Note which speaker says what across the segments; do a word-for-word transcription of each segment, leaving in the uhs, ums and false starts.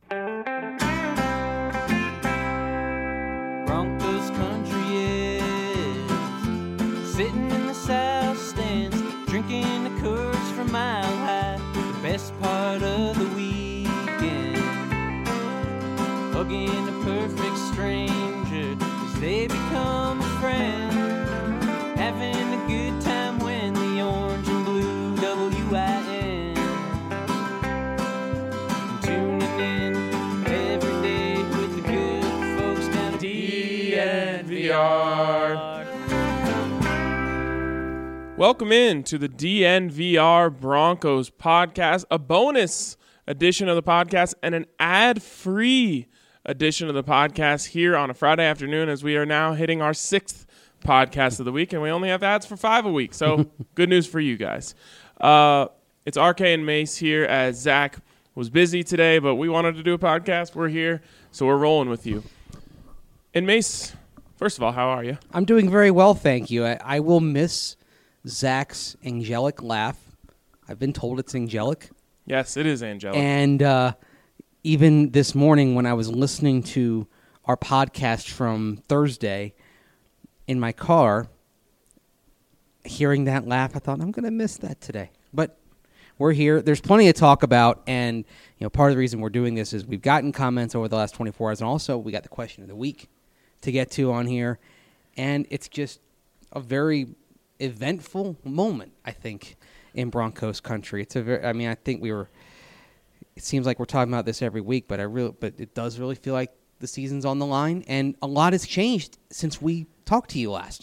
Speaker 1: Broncos country is sitting in the south stands, drinking the Coors from Mile High. The best part of the weekend, hugging a perfect stranger as they become a friend, having a good time when the orange and blue W I N, tuning in every day with the good folks down at D N V R.
Speaker 2: Welcome in to the D N V R Broncos podcast, a bonus edition of the podcast and an ad-free edition of the podcast here on a Friday afternoon, as we are now hitting our sixth podcast of the week, and we only have ads for five a week, so good news for you guys. Uh, it's R K and Mace here, as Zach was busy today, but we wanted to do a podcast. We're here, so we're rolling with you. And Mace, first of all, how are you?
Speaker 3: I'm doing very well, thank you. I, I will miss Zach's angelic laugh. I've been told it's angelic.
Speaker 2: Yes, it is angelic.
Speaker 3: And uh, even this morning when I was listening to our podcast from Thursday in my car, hearing that laugh, I thought, I'm going to miss that today. But we're here. There's plenty to talk about, and you know, part of the reason we're doing this is we've gotten comments over the last twenty-four hours, and also we got the question of the week to get to on here, and it's just a very eventful moment, I think, in Broncos country. It's a very, I mean, I think we were, it seems like we're talking about this every week, but I really, but it does really feel like the season's on the line, and a lot has changed since we talked to you last.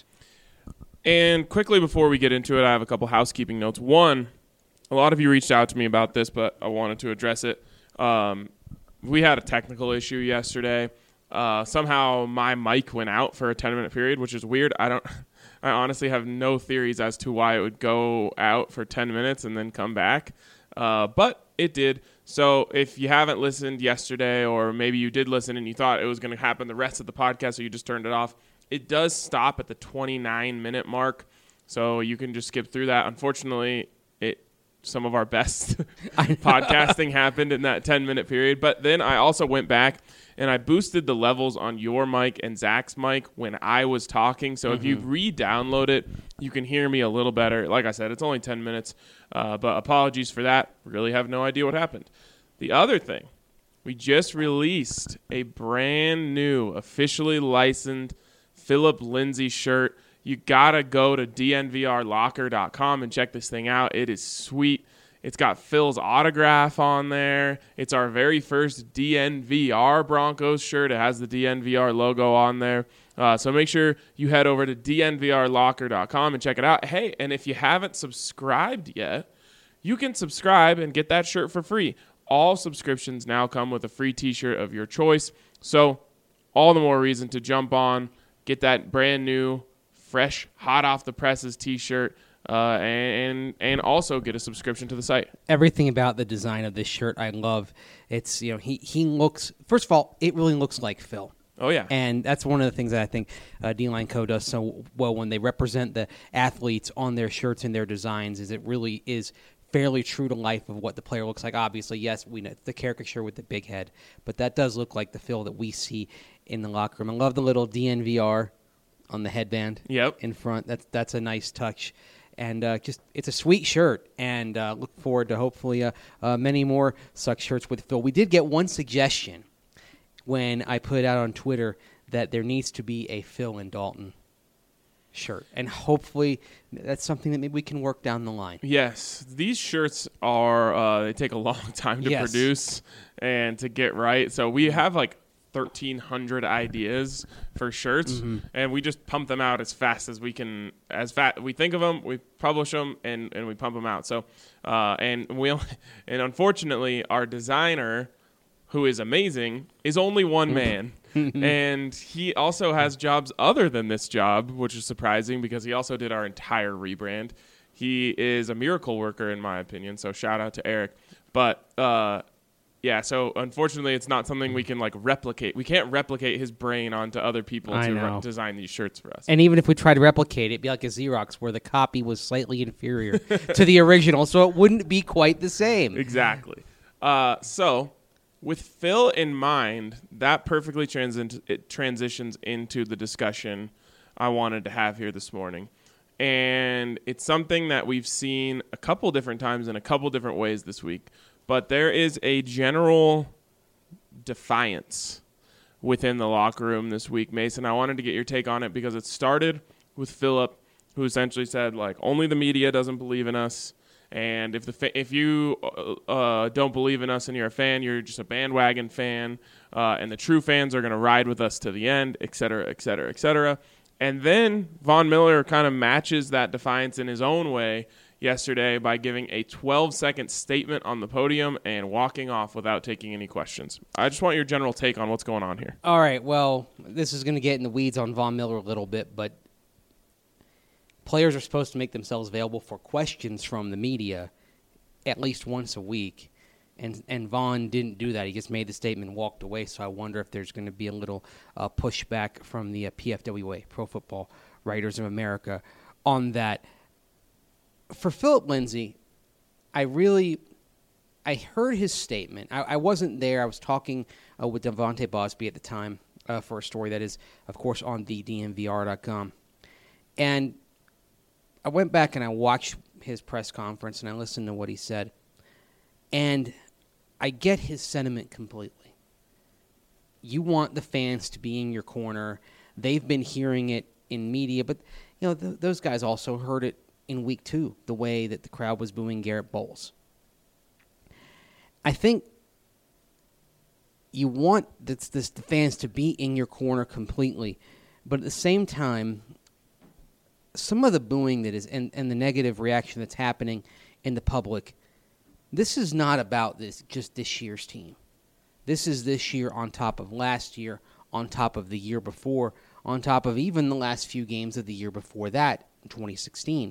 Speaker 2: And quickly before we get into it, I have a couple housekeeping notes. One, a lot of you reached out to me about this, but I wanted to address it. Um, we had a technical issue yesterday. Uh, somehow my mic went out for a ten-minute period, which is weird. I don't... I honestly have no theories as to why it would go out for ten minutes and then come back, uh, but it did. So if you haven't listened yesterday, or maybe you did listen and you thought it was going to happen the rest of the podcast, so you just turned it off, it does stop at the twenty-nine minute mark, so you can just skip through that. Unfortunately, it some of our best podcasting happened in that ten minute period, but then I also went back and I boosted the levels on your mic and Zach's mic when I was talking. So mm-hmm. if you re-download it, you can hear me a little better. Like I said, it's only ten minutes, uh, but apologies for that. Really have no idea what happened. The other thing, we just released a brand new, officially licensed Phillip Lindsay shirt. You got to go to D N V R locker dot com and check this thing out. It is sweet. It's got Phil's autograph on there. It's our very first D N V R Broncos shirt. It has the D N V R logo on there. Uh, so make sure you head over to D N V R locker dot com and check it out. Hey, and if you haven't subscribed yet, you can subscribe and get that shirt for free. All subscriptions now come with a free t-shirt of your choice. So all the more reason to jump on, get that brand new, fresh, hot off the presses t-shirt. Uh, and and also get a subscription to the site.
Speaker 3: Everything about the design of this shirt I love. It's, you know, he, he looks, first of all, it really looks like Phil.
Speaker 2: Oh, yeah.
Speaker 3: And that's one of the things that I think uh, D-Line Co. does so well when they represent the athletes on their shirts and their designs, is it really is fairly true to life of what the player looks like. Obviously, yes, we know the caricature with the big head, but that does look like the Phil that we see in the locker room. I love the little D N V R on the headband
Speaker 2: yep.
Speaker 3: in front. That's, that's a nice touch. And uh, just it's a sweet shirt, and uh, look forward to hopefully uh, uh, many more such shirts with Phil. We did get one suggestion when I put out on Twitter that there needs to be a Phil and Dalton shirt, and hopefully that's something that maybe we can work down the line.
Speaker 2: Yes, these shirts are uh, they take a long time to
Speaker 3: yes.
Speaker 2: produce and to get right. So we have like thirteen hundred ideas for shirts, mm-hmm. and we just pump them out as fast as we can. As fast we think of them, we publish them, and, and we pump them out. So, uh, and we and unfortunately, our designer, who is amazing, is only one man, and he also has jobs other than this job, which is surprising because he also did our entire rebrand. He is a miracle worker, in my opinion. So shout out to Eric, but. Uh, Yeah, so unfortunately, it's not something we can like replicate. We can't replicate his brain onto other people
Speaker 3: I
Speaker 2: to
Speaker 3: know.
Speaker 2: re- design these shirts for us.
Speaker 3: And even if we tried to replicate it, it'd be like a Xerox where the copy was slightly inferior to the original, so it wouldn't be quite the same.
Speaker 2: Exactly. Uh, so with Phil in mind, that perfectly transi- it transitions into the discussion I wanted to have here this morning. And it's something that we've seen a couple different times in a couple different ways this week. But there is a general defiance within the locker room this week, Mason. I wanted to get your take on it because it started with Philip, who essentially said, like, only the media doesn't believe in us. And if the fa- if you uh, don't believe in us and you're a fan, you're just a bandwagon fan. Uh, and the true fans are going to ride with us to the end, et cetera, et cetera, et cetera. And then Von Miller kind of matches that defiance in his own way yesterday by giving a twelve-second statement on the podium and walking off without taking any questions. I just want your general take on what's going on here.
Speaker 3: All right, well, this is going to get in the weeds on Von Miller a little bit, but players are supposed to make themselves available for questions from the media at least once a week. And and Von didn't do that. He just made the statement and walked away. So I wonder if there's going to be a little uh, pushback from the uh, P F W A, Pro Football Writers of America, on that. For Philip Lindsay, I really, I heard his statement. I, I wasn't there. I was talking uh, with Devontae Bosby at the time uh, for a story that is, of course, on the D M V R dot com. And I went back and I watched his press conference and I listened to what he said. And I get his sentiment completely. You want the fans to be in your corner. They've been hearing it in media, but you know th- those guys also heard it in week two, the way that the crowd was booing Garrett Bowles. I think you want this, this, the fans to be in your corner completely, but at the same time, some of the booing that is and, and the negative reaction that's happening in the public, this is not about this just this year's team. This is this year on top of last year, on top of the year before, on top of even the last few games of the year before that, in twenty sixteen.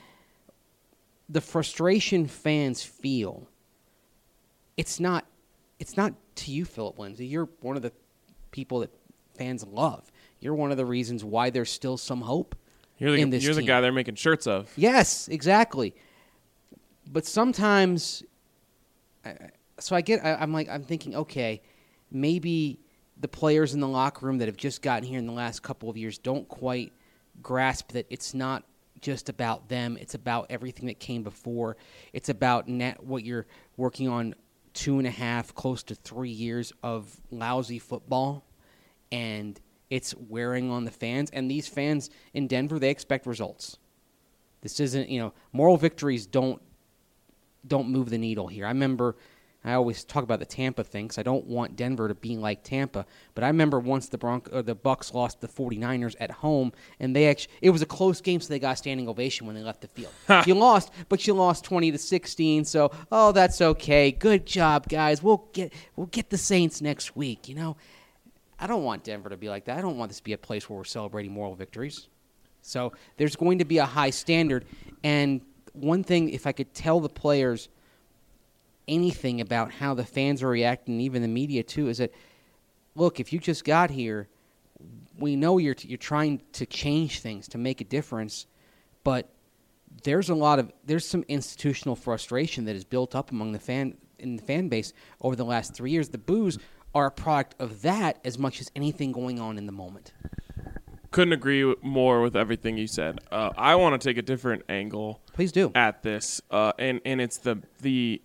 Speaker 3: The frustration fans feel, it's not it's not to you, Philip Lindsay. You're one of the people that fans love. You're one of the reasons why there's still some hope
Speaker 2: You're the,
Speaker 3: in this
Speaker 2: you're
Speaker 3: team.
Speaker 2: the guy they're making shirts of.
Speaker 3: Yes, exactly. But sometimes, I, so I get, I, I'm like, I'm thinking, okay, maybe the players in the locker room that have just gotten here in the last couple of years don't quite grasp that it's not just about them. It's about everything that came before. It's about net, what you're working on two and a half, close to three years of lousy football, and it's wearing on the fans. And these fans in Denver, they expect results. This isn't, you know, moral victories don't don't move the needle here. I remember, I always talk about the Tampa thing because I don't want Denver to be like Tampa. But I remember once the Bronc- or the Bucs lost the 49ers at home, and they actually it was a close game, so they got a standing ovation when they left the field. You lost, but you lost twenty to sixteen. So, oh, that's okay. Good job, guys. We'll get we'll get the Saints next week. You know, I don't want Denver to be like that. I don't want this to be a place where we're celebrating moral victories. So there's going to be a high standard, and one thing, if I could tell the players anything about how the fans are reacting, even the media too, is that, look, if you just got here, we know you're you're trying to change things to make a difference, but there's a lot of there's some institutional frustration that is built up among the fan in the fan base over the last three years. The boos are a product of that as much as anything going on in the moment.
Speaker 2: Couldn't agree more with everything you said. Uh, I want to take a different angle.
Speaker 3: Please do.
Speaker 2: At this, uh, and and it's the the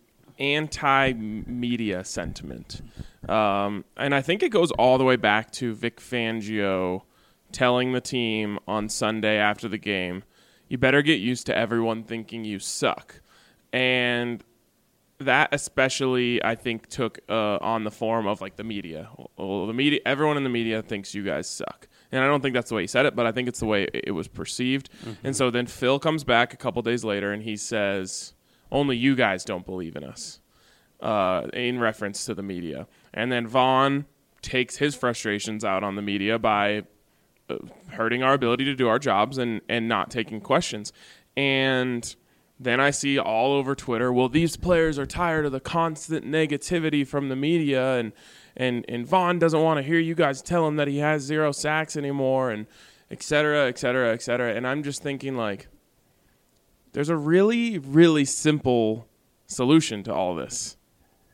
Speaker 2: anti-media sentiment, um, and I think it goes all the way back to Vic Fangio telling the team on Sunday after the game, "You better get used to everyone thinking you suck," and that especially I think took uh, on the form of like the media. Well, the media, everyone in the media thinks you guys suck. And I don't think that's the way he said it, but I think it's the way it was perceived. Mm-hmm. And so then Phil comes back a couple days later and he says, only you guys don't believe in us, uh, in reference to the media. And then Von takes his frustrations out on the media by uh, hurting our ability to do our jobs and, and not taking questions. And then I see all over Twitter, well, these players are tired of the constant negativity from the media, and And and Von doesn't want to hear you guys tell him that he has zero sacks anymore, and et cetera, et cetera, et cetera. And I'm just thinking, like, there's a really, really simple solution to all this.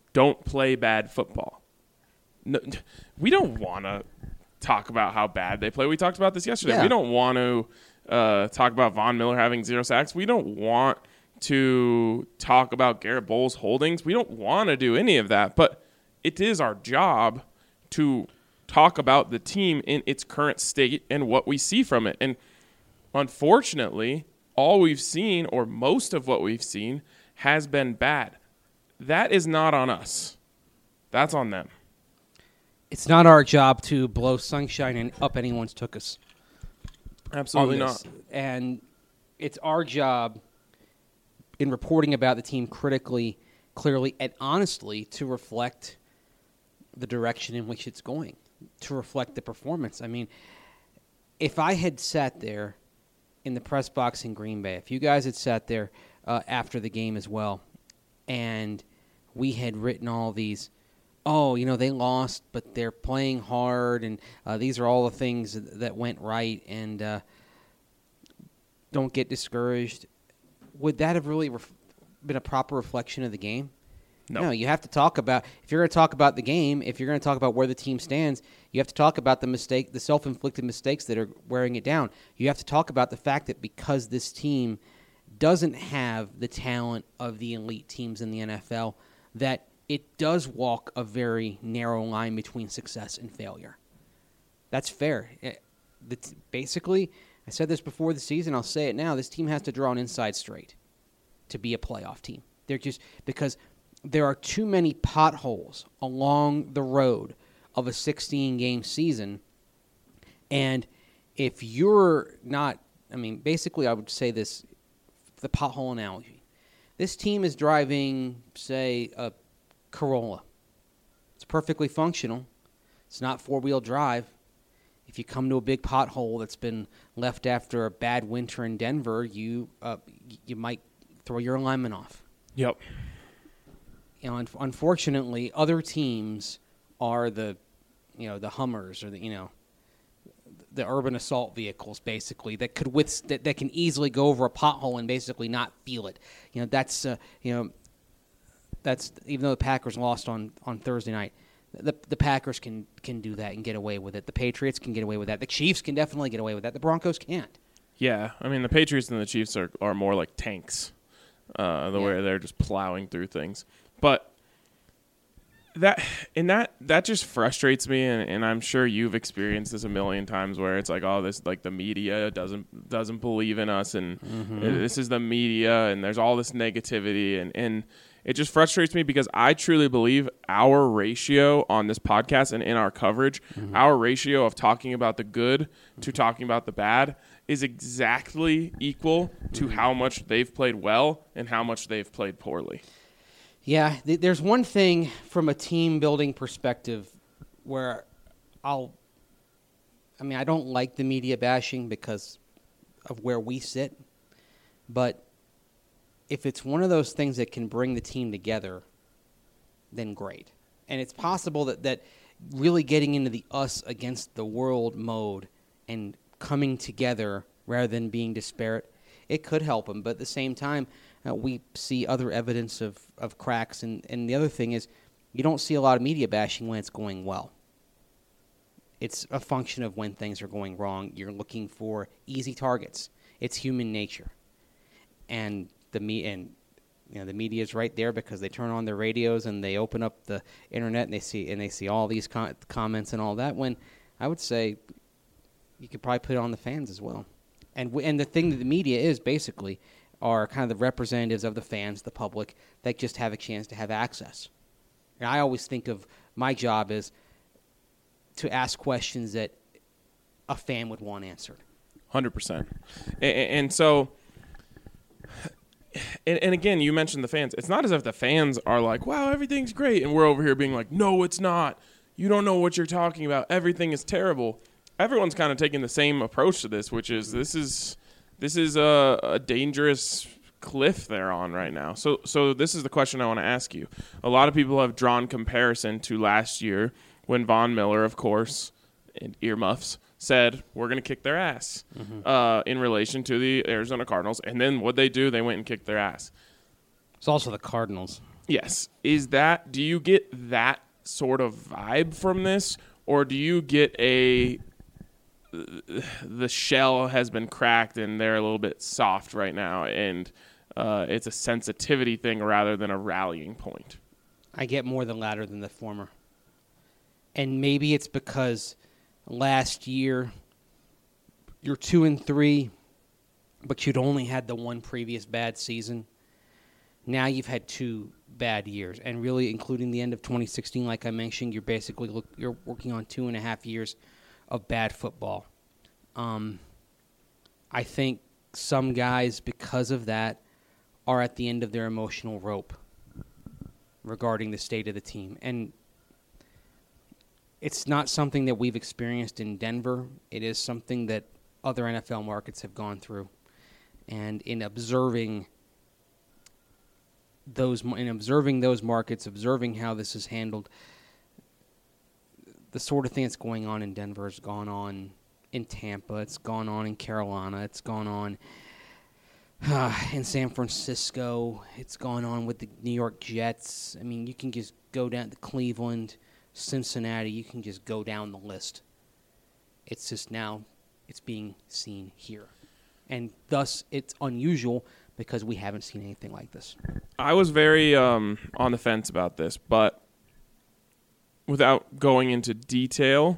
Speaker 2: don't play bad football. No, we don't want to talk about how bad they play. We talked about this yesterday.
Speaker 3: Yeah.
Speaker 2: We don't want to uh, talk about Von Miller having zero sacks. We don't want to talk about Garrett Bowles' holdings. We don't want to do any of that. But it is our job to talk about the team in its current state and what we see from it. And unfortunately, all we've seen, or most of what we've seen, has been bad. That is not on us. That's on them.
Speaker 3: It's not our job to blow sunshine and up anyone's tuchus.
Speaker 2: Absolutely
Speaker 3: on
Speaker 2: not.
Speaker 3: this. And it's our job in reporting about the team critically, clearly, and honestly to reflect the direction in which it's going, to reflect the performance. I mean, if I had sat there in the press box in Green Bay, if you guys had sat there uh, after the game as well, and we had written all these, oh, you know, they lost, but they're playing hard, and uh, these are all the things that went right, and uh, don't get discouraged, would that have really ref- been a proper reflection of the game?
Speaker 2: No.
Speaker 3: No, you have to talk about, if you're going to talk about the game, if you're going to talk about where the team stands, you have to talk about the mistake, the self-inflicted mistakes that are wearing it down. You have to talk about the fact that because this team doesn't have the talent of the elite teams in the N F L, that it does walk a very narrow line between success and failure. That's fair. It, the, basically, I said this before the season, I'll say it now, this team has to draw an inside straight to be a playoff team. They're just, because there are too many potholes along the road of a sixteen-game season, and if you're not, I mean, basically I would say this, the pothole analogy. This team is driving, say, a Corolla. It's perfectly functional. It's not four-wheel drive. If you come to a big pothole that's been left after a bad winter in Denver, you uh, you might throw your alignment off.
Speaker 2: Yep.
Speaker 3: You know, un- unfortunately, other teams are the, you know, the Hummers or the, you know, the urban assault vehicles, basically, that could with that, that can easily go over a pothole and basically not feel it. You know, that's uh, you know, that's even though the Packers lost on, on Thursday night, the the Packers can can do that and get away with it. The Patriots can get away with that. The Chiefs can definitely get away with that. The Broncos can't.
Speaker 2: Yeah, I mean the Patriots and the Chiefs are, are more like tanks, uh, the
Speaker 3: Yeah.
Speaker 2: way they're just plowing through things. But that and that that just frustrates me, and, and I'm sure you've experienced this a million times, where it's like, oh, this like the media doesn't doesn't believe in us, and
Speaker 3: Mm-hmm.
Speaker 2: this is the media, and there's all this negativity, and and it just frustrates me because I truly believe our ratio on this podcast and in our coverage,
Speaker 3: Mm-hmm.
Speaker 2: our ratio of talking about the good to talking about the bad is exactly equal to
Speaker 3: Mm-hmm.
Speaker 2: how much they've played well and how much they've played poorly.
Speaker 3: Yeah, th- there's one thing from a team building perspective where I'll, I mean, I don't like the media bashing because of where we sit, but if it's one of those things that can bring the team together, then great. And it's possible that, that really getting into the us against the world mode and coming together rather than being disparate, it could help them. But at the same time, uh, we see other evidence of, of cracks. And, and the other thing is you don't see a lot of media bashing when it's going well. It's a function of when things are going wrong. You're looking for easy targets. It's human nature. And the me and you know the media is right there because they turn on their radios and they open up the internet and they see and they see all these com- comments and all that. When I would say you could probably put it on the fans as well. And w- and the thing that the media is basically are kind of the representatives of the fans, the public, that just have a chance to have access. And I always think of my job as to ask questions that a fan would want answered.
Speaker 2: one hundred percent. And, and so, and, and again, you mentioned the fans. It's not as if the fans are like, wow, everything's great. And we're over here being like, no, it's not. You don't know what you're talking about. Everything is terrible. Everyone's kind of taking the same approach to this, which is this is this is a, a dangerous cliff they're on right now. So, so this is the question I want to ask you. A lot of people have drawn comparison to last year when Von Miller, of course, and earmuffs, said, we're going to kick their ass mm-hmm. uh, in relation to the Arizona Cardinals. And then what they do, they went and kicked their ass.
Speaker 3: It's also the Cardinals.
Speaker 2: Yes. Is that, do you get that sort of vibe from this, or do you get a, the shell has been cracked and they're a little bit soft right now, and uh, it's a sensitivity thing rather than a rallying point?
Speaker 3: I get more the latter than the former. And maybe it's because last year you're two and three, but you'd only had the one previous bad season. Now you've had two bad years, and really, including the end of twenty sixteen, like I mentioned, you're basically look, you're working on two and a half years of bad football. Um, I think some guys, because of that, are at the end of their emotional rope regarding the state of the team, and it's not something that we've experienced in Denver. It is something that other N F L markets have gone through, and in observing those in observing those markets, observing how this is handled, the sort of thing that's going on in Denver has gone on in Tampa. It's gone on in Carolina. It's gone on uh, in San Francisco. It's gone on with the New York Jets. I mean, you can just go down to Cleveland, Cincinnati. You can just go down the list. It's just now it's being seen here. And thus it's unusual because we haven't seen anything like this.
Speaker 2: I was very um, on the fence about this, but without going into detail,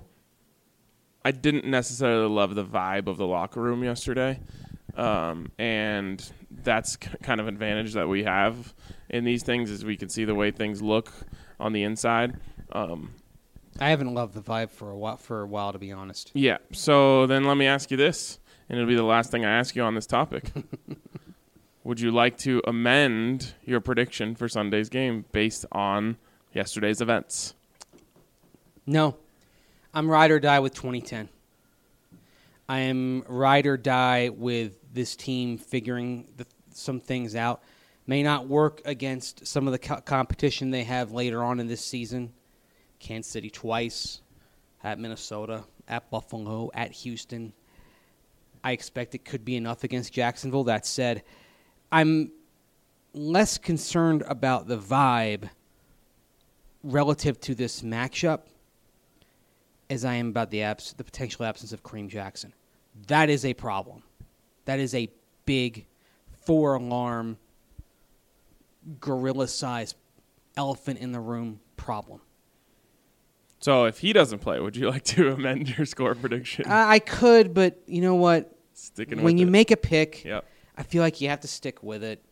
Speaker 2: I didn't necessarily love the vibe of the locker room yesterday. Um, and that's k- kind of an advantage that we have in these things is we can see the way things look on the inside. Um,
Speaker 3: I haven't loved the vibe for a while, for a while, to be honest.
Speaker 2: Yeah. So then let me ask you this, and it'll be the last thing I ask you on this topic. Would you like to amend your prediction for Sunday's game based on yesterday's events?
Speaker 3: No. I'm ride or die with twenty ten. I am ride or die with this team figuring the, some things out. May not work against some of the co- competition they have later on in this season. Kansas City twice, at Minnesota, at Buffalo, at Houston. I expect it could be enough against Jacksonville. That said, I'm less concerned about the vibe relative to this matchup as I am about the abs- the potential absence of Kareem Jackson. That is a problem. That is a big, four-alarm, gorilla-sized elephant in the room problem.
Speaker 2: So if he doesn't play, would you like to amend your score prediction?
Speaker 3: I, I could, but you know what?
Speaker 2: Sticking
Speaker 3: when
Speaker 2: with
Speaker 3: you
Speaker 2: it.
Speaker 3: make a pick,
Speaker 2: Yep.
Speaker 3: I feel like you have to stick with it.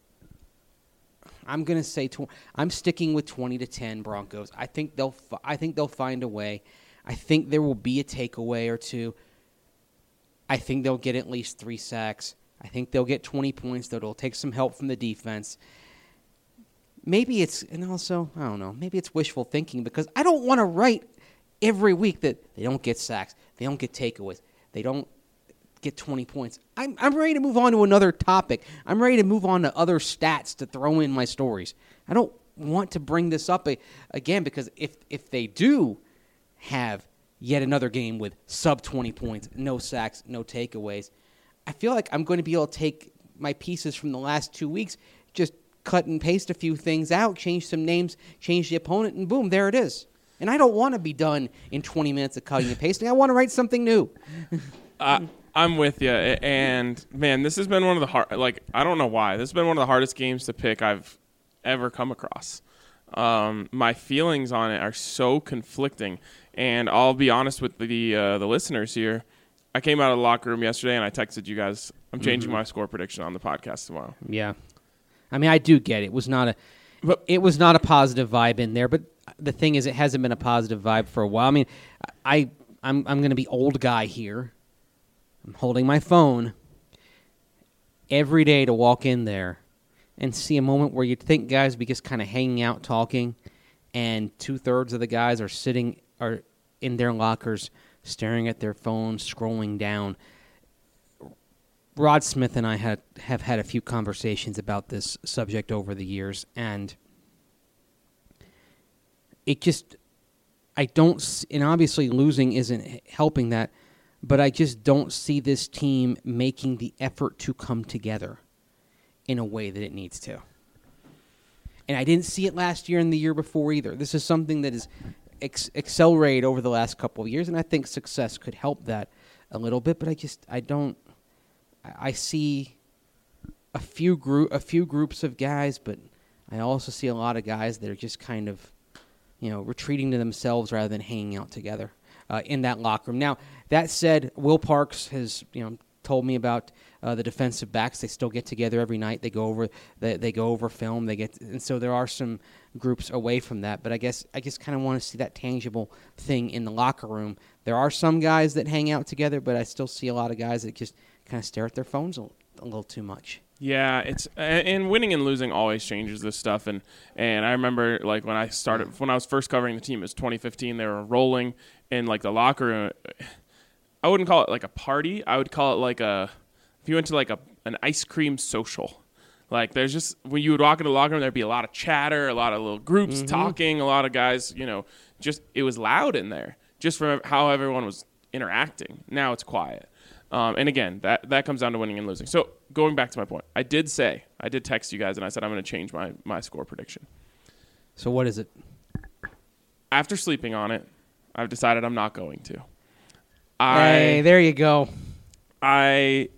Speaker 3: I'm gonna say tw- I'm sticking with twenty to ten Broncos. I think they'll. F- I think they'll find a way. I think there will be a takeaway or two. I think they'll get at least three sacks. I think they'll get twenty points, though it'll take some help from the defense. Maybe it's, and also, I don't know, maybe it's wishful thinking because I don't want to write every week that they don't get sacks, they don't get takeaways, they don't get twenty points. I'm I'm ready to move on to another topic. I'm ready to move on to other stats to throw in my stories. I don't want to bring this up a, again because if if they do have yet another game with sub twenty points, no sacks, no takeaways, I feel like I'm going to be able to take my pieces from the last two weeks, just cut and paste a few things out, change some names, change the opponent, and boom, there it is. And I don't want to be done in twenty minutes of cutting and pasting. I want to write something new.
Speaker 2: uh, I'm with you. And, man, this has been one of the hard – like, I don't know why. This has been one of the hardest games to pick I've ever come across. Um, my feelings on it are so conflicting. And I'll be honest with the uh, the listeners here. I came out of the locker room yesterday, and I texted you guys, I'm changing mm-hmm. my score prediction on the podcast tomorrow.
Speaker 3: Yeah. I mean, I do get it. It was not a
Speaker 2: but,
Speaker 3: it was not a positive vibe in there, but the thing is it hasn't been a positive vibe for a while. I mean, I I'm I'm going to be old guy here. I'm holding my phone every day to walk in there and see a moment where you'd think guys be just kind of hanging out talking, and two-thirds of the guys are sitting are in their lockers staring at their phones, scrolling down. Rod Smith and I had, have had a few conversations about this subject over the years, and it just, I don't, and obviously losing isn't helping that, but I just don't see this team making the effort to come together in a way that it needs to. And I didn't see it last year and the year before either. This is something that is ex- accelerated over the last couple of years, and I think success could help that a little bit. But I just I don't I see a few group a few groups of guys, but I also see a lot of guys that are just kind of, you know, retreating to themselves rather than hanging out together uh, in that locker room. Now, that said, Will Parks has, you know, told me about uh, the defensive backs. They still get together every night. They go over they, they go over film. They get and so there are some groups away from that. But I guess I just kind of want to see that tangible thing in the locker room. There are some guys that hang out together, but I still see a lot of guys that just kind of stare at their phones a, a little too much.
Speaker 2: Yeah, it's and winning and losing always changes this stuff. And, and I remember like when I started when I was first covering the team, it was twenty fifteen. They were rolling in like the locker room. I wouldn't call it like a party. I would call it like a if you went to like a an ice cream social. Like there's just when you would walk into the locker room, there'd be a lot of chatter, a lot of little groups mm-hmm. talking, a lot of guys. You know, just it was loud in there, just from how everyone was interacting. Now it's quiet. Um, and again, that, that comes down to winning and losing. So going back to my point, I did say, I did text you guys, and I said I'm going to change my, my score prediction.
Speaker 3: So what is it?
Speaker 2: After sleeping on it, I've decided I'm not going to. I,
Speaker 3: hey, there you go.
Speaker 2: I.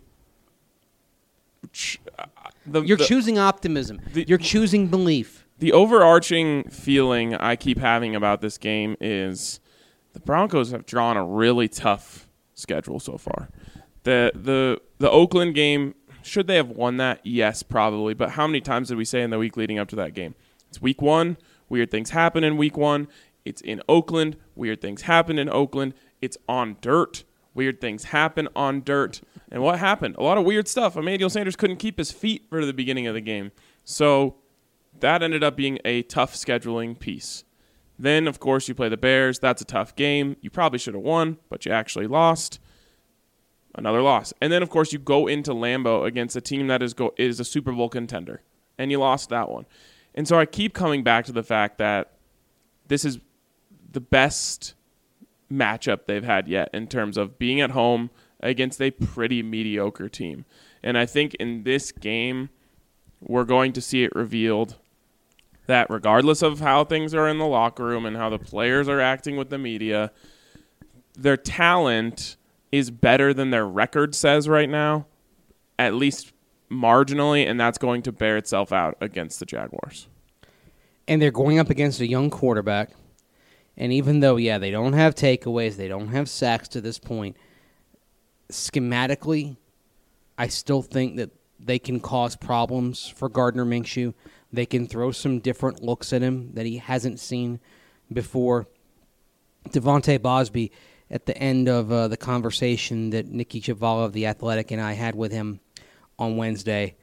Speaker 2: The,
Speaker 3: You're
Speaker 2: the,
Speaker 3: choosing optimism.
Speaker 2: The,
Speaker 3: You're choosing belief.
Speaker 2: The overarching feeling I keep having about this game is the Broncos have drawn a really tough schedule so far. The the the Oakland game, should they have won that? Yes, probably. But how many times did we say in the week leading up to that game? It's week one. Weird things happen in week one. It's in Oakland. Weird things happen in Oakland. It's on dirt. Weird things happen on dirt. And what happened? A lot of weird stuff. Emmanuel Sanders couldn't keep his feet for the beginning of the game. So that ended up being a tough scheduling piece. Then, of course, you play the Bears. That's a tough game. You probably should have won, but you actually lost. Another loss. And then, of course, you go into Lambeau against a team that is go is a Super Bowl contender, and you lost that one. And so I keep coming back to the fact that this is the best matchup they've had yet in terms of being at home against a pretty mediocre team. And I think in this game, we're going to see it revealed that regardless of how things are in the locker room and how the players are acting with the media, their talent is better than their record says right now, at least marginally, and that's going to bear itself out against the Jaguars.
Speaker 3: And they're going up against a young quarterback, and even though, yeah, they don't have takeaways, they don't have sacks to this point, schematically, I still think that they can cause problems for Gardner Minshew. They can throw some different looks at him that he hasn't seen before. Devontae Bosby, at the end of uh, the conversation that Nikki Chavala of The Athletic and I had with him on Wednesday,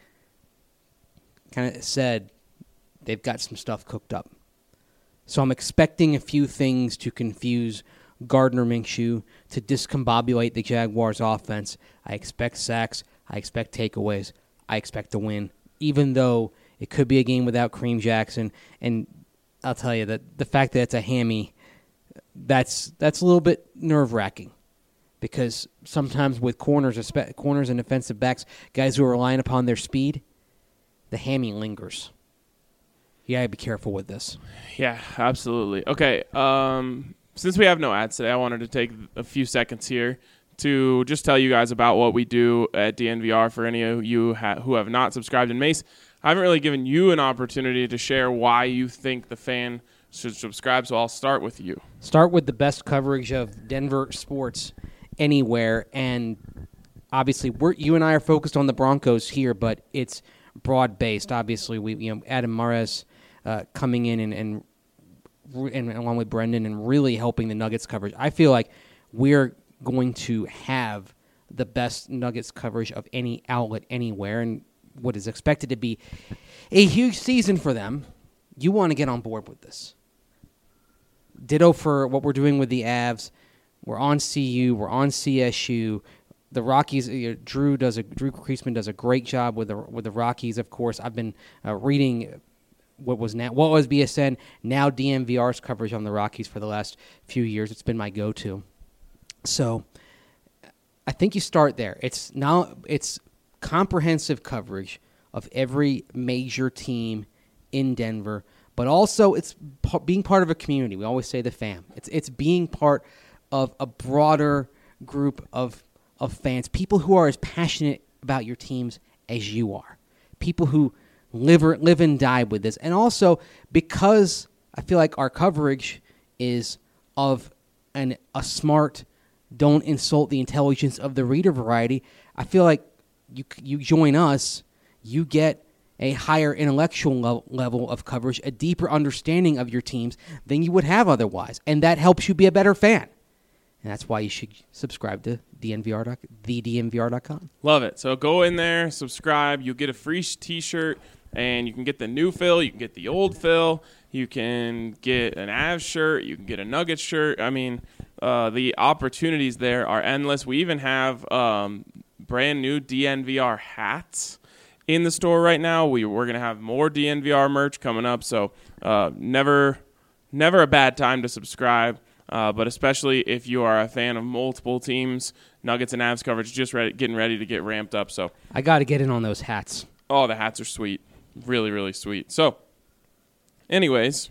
Speaker 3: kind of said they've got some stuff cooked up. So I'm expecting a few things to confuse Gardner Minshew, to discombobulate the Jaguars' offense. I expect sacks. I expect takeaways. I expect to win, even though it could be a game without Kareem Jackson. And I'll tell you that the fact that it's a hammy, that's that's a little bit nerve-wracking, because sometimes with corners, corners and defensive backs, guys who are relying upon their speed, the hammy lingers. You gotta be careful with this.
Speaker 2: Yeah, absolutely. Okay, um, since we have no ads today, I wanted to take a few seconds here to just tell you guys about what we do at D N V R. For any of you ha- who have not subscribed in Mace, I haven't really given you an opportunity to share why you think the fan should subscribe, so I'll start with you.
Speaker 3: Start with the best coverage of Denver sports anywhere, and obviously we're, you and I are focused on the Broncos here, but it's broad-based. Obviously, we you know Adam Mares uh, coming in and, and and along with Brendan and really helping the Nuggets coverage. I feel like we're going to have the best Nuggets coverage of any outlet anywhere, and what is expected to be a huge season for them. You want to get on board with this. Ditto for what we're doing with the Avs. We're on C U. We're on C S U. The Rockies. You know, Drew does a Drew Kreisman does a great job with the with the Rockies. Of course, I've been uh, reading what was now what was B S N, now D M V R's coverage on the Rockies for the last few years. It's been my go-to. So, I think you start there. It's now it's comprehensive coverage of every major team in Denver, but also it's p- being part of a community. We always say the fam. It's it's being part of a broader group of of fans, people who are as passionate about your teams as you are, people who live or, live and die with this, and also because I feel like our coverage is of an a smart, don't insult the intelligence of the reader variety. I feel like you you join us, you get a higher intellectual le- level of coverage, a deeper understanding of your teams than you would have otherwise, and that helps you be a better fan. And that's why you should subscribe to D N V R, the D N V R dot com.
Speaker 2: Love it. So go in there, subscribe. You'll get a free T-shirt, and you can get the new Phil. You can get the old Phil. You can get an Avs shirt. You can get a Nuggets shirt. I mean, uh, the opportunities there are endless. We even have um, brand new D N V R hats in the store right now. We, we're going to have more D N V R merch coming up, so uh, never, never a bad time to subscribe. Uh, but especially if you are a fan of multiple teams, Nuggets and Avs coverage just ready, getting ready to get ramped up. So
Speaker 3: I got to get in on those hats.
Speaker 2: Oh, the hats are sweet. Really, really sweet. So, anyways,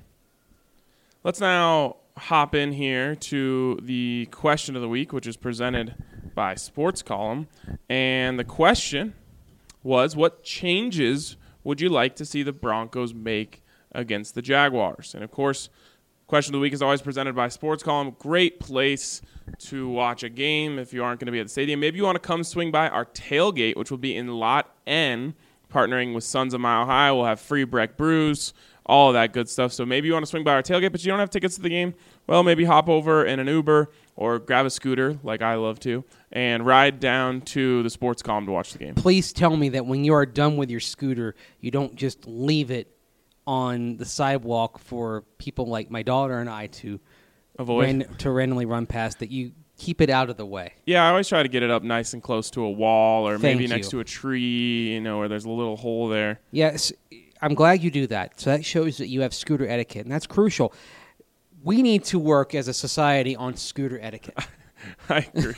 Speaker 2: let's now hop in here to the question of the week, which is presented by Sports Column. And the question was, what changes would you like to see the Broncos make against the Jaguars? And, of course, question of the week is always presented by Sports Column. Great place to watch a game if you aren't going to be at the stadium. Maybe you want to come swing by our tailgate, which will be in Lot N, partnering with Sons of Mile High. We'll have free Breck brews, all of that good stuff. So maybe you want to swing by our tailgate, but you don't have tickets to the game. Well, maybe hop over in an Uber or grab a scooter, like I love to, and ride down to the Sports Column to watch the game.
Speaker 3: Please tell me that when you are done with your scooter, you don't just leave it on the sidewalk for people like my daughter and I to
Speaker 2: avoid
Speaker 3: ran, to randomly run past, that you keep it out of the way.
Speaker 2: Yeah, I always try to get it up nice and close to a wall or
Speaker 3: Thank
Speaker 2: maybe
Speaker 3: you.
Speaker 2: next to a tree, you know, where there's a little hole there.
Speaker 3: Yes, I'm glad you do that. So that shows that you have scooter etiquette, and that's crucial. We need to work as a society on scooter etiquette.
Speaker 2: I agree.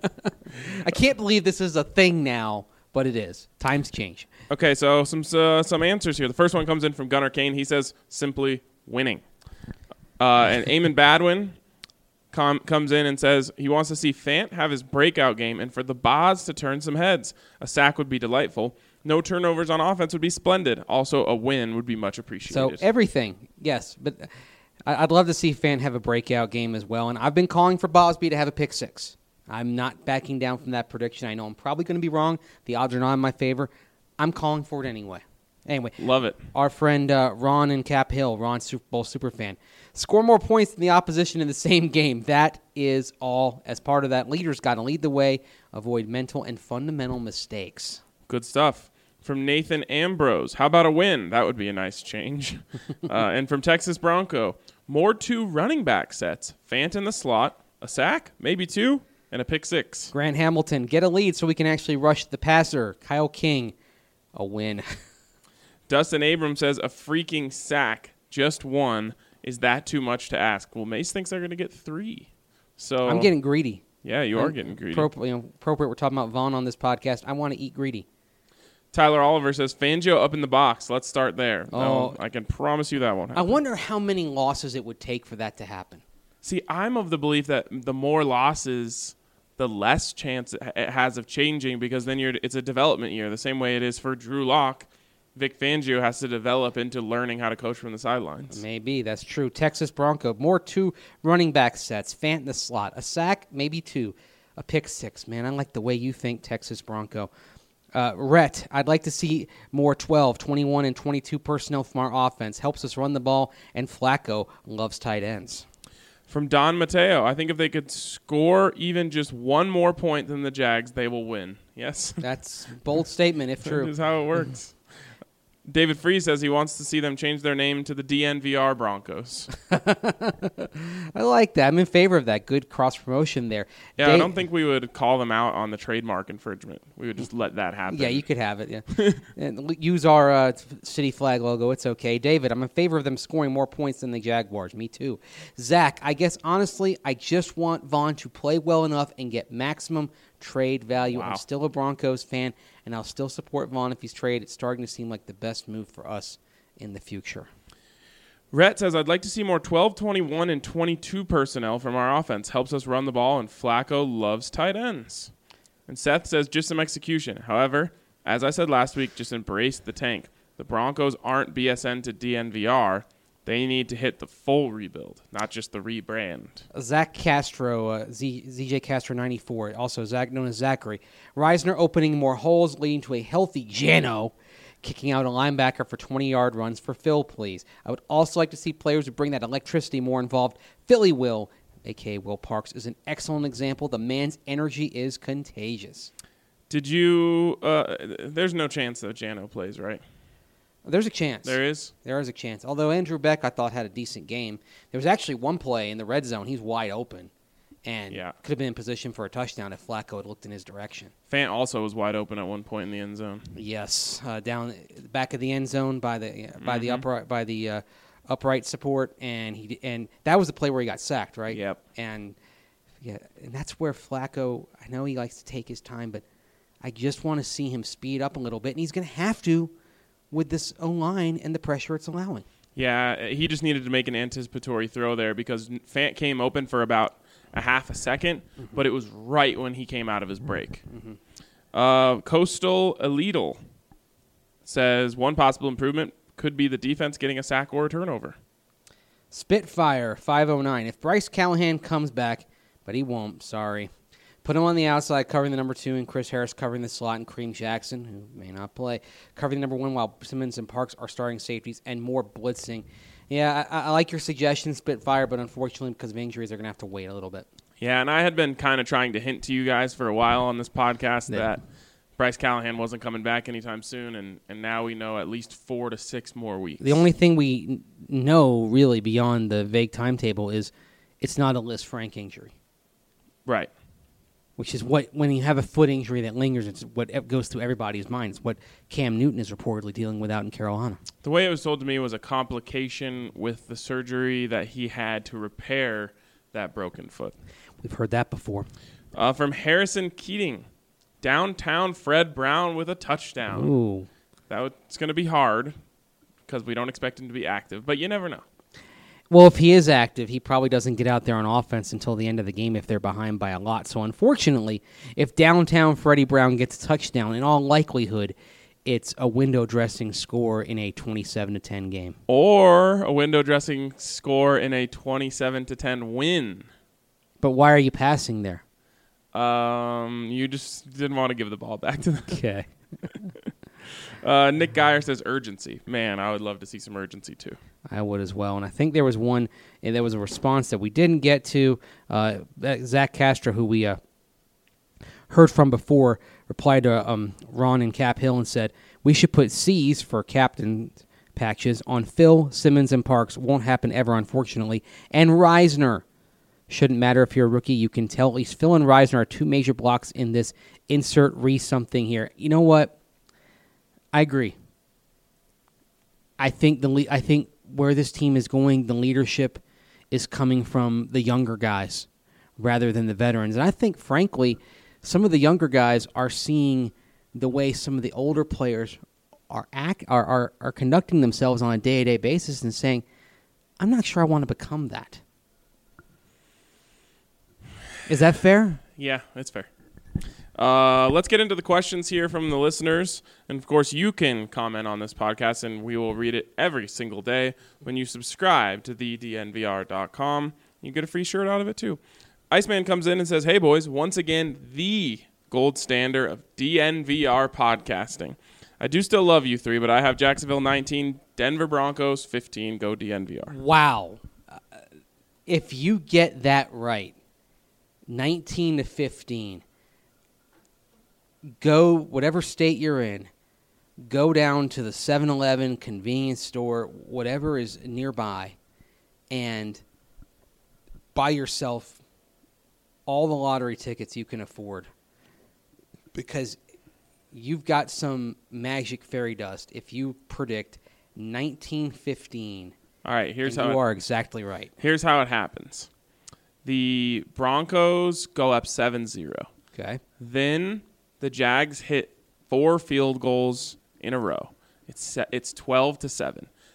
Speaker 3: I can't believe this is a thing now, but it is. Times change.
Speaker 2: Okay, so some uh, some answers here. The first one comes in from Gunnar Kane. He says, simply winning. Uh, and Eamon Badwin com- comes in and says he wants to see Fant have his breakout game and for the Boz to turn some heads. A sack would be delightful. No turnovers on offense would be splendid. Also, a win would be much appreciated.
Speaker 3: So everything, yes. But I- I'd love to see Fant have a breakout game as well. And I've been calling for Bosby to have a pick six. I'm not backing down from that prediction. I know I'm probably going to be wrong. The odds are not in my favor. I'm calling for it anyway. Anyway.
Speaker 2: Love it.
Speaker 3: Our friend uh, Ron in Cap Hill, Ron Super Bowl superfan. Score more points than the opposition in the same game. That is all. As part of that, leaders got to lead the way, avoid mental and fundamental mistakes.
Speaker 2: Good stuff. From Nathan Ambrose, how about a win? That would be a nice change. uh, and from Texas Bronco, more two running back sets. Fant in the slot, a sack, maybe two, and a pick six.
Speaker 3: Grant Hamilton, get a lead so we can actually rush the passer. Kyle King, a win.
Speaker 2: Dustin Abrams says a freaking sack, just one. Is that too much to ask? Well, Mace thinks they're going to get three. So
Speaker 3: I'm getting greedy.
Speaker 2: Yeah, you are
Speaker 3: I'm
Speaker 2: getting greedy.
Speaker 3: Appropriate, you know, appropriate. We're talking about Vaughn on this podcast. I want to eat greedy.
Speaker 2: Tyler Oliver says Fangio up in the box. Let's start there.
Speaker 3: Oh.
Speaker 2: No, I can promise you that won't happen.
Speaker 3: I wonder how many losses it would take for that to happen.
Speaker 2: See, I'm of the belief that the more losses, the less chance it has of changing, because then you're it's a development year. The same way it is for Drew Lock, Vic Fangio has to develop into learning how to coach from the sidelines.
Speaker 3: Maybe, that's true. Texas Bronco, more two running back sets. Fant in the slot. A sack, maybe two. A pick six. Man, I like the way you think, Texas Bronco. Uh, Rhett, I'd like to see more twelve, twenty-one, and twenty-two personnel from our offense. Helps us run the ball, and Flacco loves tight ends.
Speaker 2: From Don Mateo, I think if they could score even just one more point than the Jags, they will win. Yes?
Speaker 3: That's a bold statement, if true.
Speaker 2: That is how it works. David Free says he wants to see them change their name to the D N V R Broncos.
Speaker 3: I like that. I'm in favor of that. Good cross-promotion there.
Speaker 2: Yeah,
Speaker 3: Dave,
Speaker 2: I don't think we would call them out on the trademark infringement. We would just let that happen.
Speaker 3: Yeah, you could have it. Yeah, and l- use our uh, city flag logo. It's okay. David, I'm in favor of them scoring more points than the Jaguars. Me too. Zach, I guess honestly, I just want Vaughn to play well enough and get maximum trade value.
Speaker 2: Wow.
Speaker 3: I'm still a Broncos fan, and I'll still support Vaughn if he's traded. It's starting to seem like the best move for us in the future.
Speaker 2: Rhett says, I'd like to see more twelve, twenty-one, and twenty-two personnel from our offense. Helps us run the ball, and Flacco loves tight ends. And Seth says, just some execution. However, as I said last week, just embrace the tank. The Broncos aren't B S N to D N V R. They need to hit the full rebuild, not just the rebrand.
Speaker 3: Zach Castro, uh, Z, ZJ Castro ninety-four, also Zach known as Zachary. Reisner opening more holes, leading to a healthy Jano, kicking out a linebacker for twenty-yard runs for Phil, please. I would also like to see players who bring that electricity more involved. Philly Will, a k a. Will Parks, is an excellent example. The man's energy is contagious.
Speaker 2: Did you uh, – there's no chance that Jano plays, right?
Speaker 3: There's a chance.
Speaker 2: There is?
Speaker 3: There is a chance. Although Andrew Beck, I thought, had a decent game. There was actually one play in the red zone. He's wide open and
Speaker 2: yeah.
Speaker 3: could have been in position for a touchdown if Flacco had looked in his direction.
Speaker 2: Fant also was wide open at one point in the end zone.
Speaker 3: Yes, uh, down the back of the end zone by the uh, by
Speaker 2: mm-hmm.
Speaker 3: the upright by the uh, upright support, and he and that was the play where he got sacked, right?
Speaker 2: Yep.
Speaker 3: And yeah, and that's where Flacco. I know he likes to take his time, but I just want to see him speed up a little bit, and he's going to have to with this O-line and the pressure it's allowing.
Speaker 2: Yeah, he just needed to make an anticipatory throw there because Fant came open for about a half a second, mm-hmm. but it was right when he came out of his break. Mm-hmm. Uh, Coastal Elidal says one possible improvement could be the defense getting a sack or a turnover.
Speaker 3: Spitfire five oh nine. If Bryce Callahan comes back, but he won't, sorry. Put him on the outside, covering the number two, and Chris Harris covering the slot, and Kareem Jackson, who may not play, covering the number one, while Simmons and Parks are starting safeties, and more blitzing. Yeah, I, I like your suggestion, Spitfire, but unfortunately, because of injuries, they're going to have to wait a little bit.
Speaker 2: Yeah, and I had been kind of trying to hint to you guys for a while on this podcast yeah. that Bryce Callahan wasn't coming back anytime soon, and, and now we know at least four to six more weeks.
Speaker 3: The only thing we know, really, beyond the vague timetable is it's not a Liz Frank injury.
Speaker 2: Right.
Speaker 3: Which is what, when you have a foot injury that lingers, it's what goes through everybody's mind. It's what Cam Newton is reportedly dealing with out in Carolina.
Speaker 2: The way it was told to me was a complication with the surgery that he had to repair that broken foot.
Speaker 3: We've heard that before.
Speaker 2: Uh, from Harrison Keating, downtown Fred Brown with a touchdown.
Speaker 3: Ooh.
Speaker 2: That's going to be hard because we don't expect him to be active, but you never know.
Speaker 3: Well, if he is active, he probably doesn't get out there on offense until the end of the game if they're behind by a lot. So, unfortunately, if downtown Freddie Brown gets a touchdown, in all likelihood, it's a window dressing score in a twenty-seven to ten game.
Speaker 2: Or a window dressing score in a twenty-seven to ten win.
Speaker 3: But why are you passing there?
Speaker 2: Um, you just didn't want to give the ball back to them.
Speaker 3: Okay.
Speaker 2: uh, Nick Geyer says urgency. Man, I would love to see some urgency, too.
Speaker 3: I would as well. And I think there was one, and there was a response that we didn't get to. Uh, Zach Castro, who we uh, heard from before, replied to um, Ron and Cap Hill and said, we should put C's for captain patches on Phil, Simmons, and Parks. Won't happen ever, unfortunately. And Reisner. Shouldn't matter if you're a rookie. You can tell at least Phil and Reisner are two major blocks in this insert re something here. You know what? I agree. I think the le- I think where this team is going, the leadership is coming from the younger guys rather than the veterans. And I think, frankly, some of the younger guys are seeing the way some of the older players are act are are, are conducting themselves on a day-to-day basis and saying, I'm not sure I want to become that. Is that fair?
Speaker 2: Yeah, it's fair. Uh, let's get into the questions here from the listeners. And, of course, you can comment on this podcast, and we will read it every single day when you subscribe to the D N V R dot com. You get a free shirt out of it, too. Iceman comes in and says, hey, boys, once again, the gold standard of D N V R podcasting. I do still love you three, but I have Jacksonville nineteen, Denver Broncos fifteen. Go D N V R.
Speaker 3: Wow. Uh, if you get that right, nineteen to fifteen, go whatever state you're in, go down to the seven eleven, convenience store, whatever is nearby, and buy yourself all the lottery tickets you can afford, because you've got some magic fairy dust if you predict nineteen fifteen.
Speaker 2: All right, here's how
Speaker 3: you
Speaker 2: it,
Speaker 3: are exactly right.
Speaker 2: Here's how it happens. The Broncos go up seven zero.
Speaker 3: Okay.
Speaker 2: Then the Jags hit four field goals in a row. It's it's twelve to seven.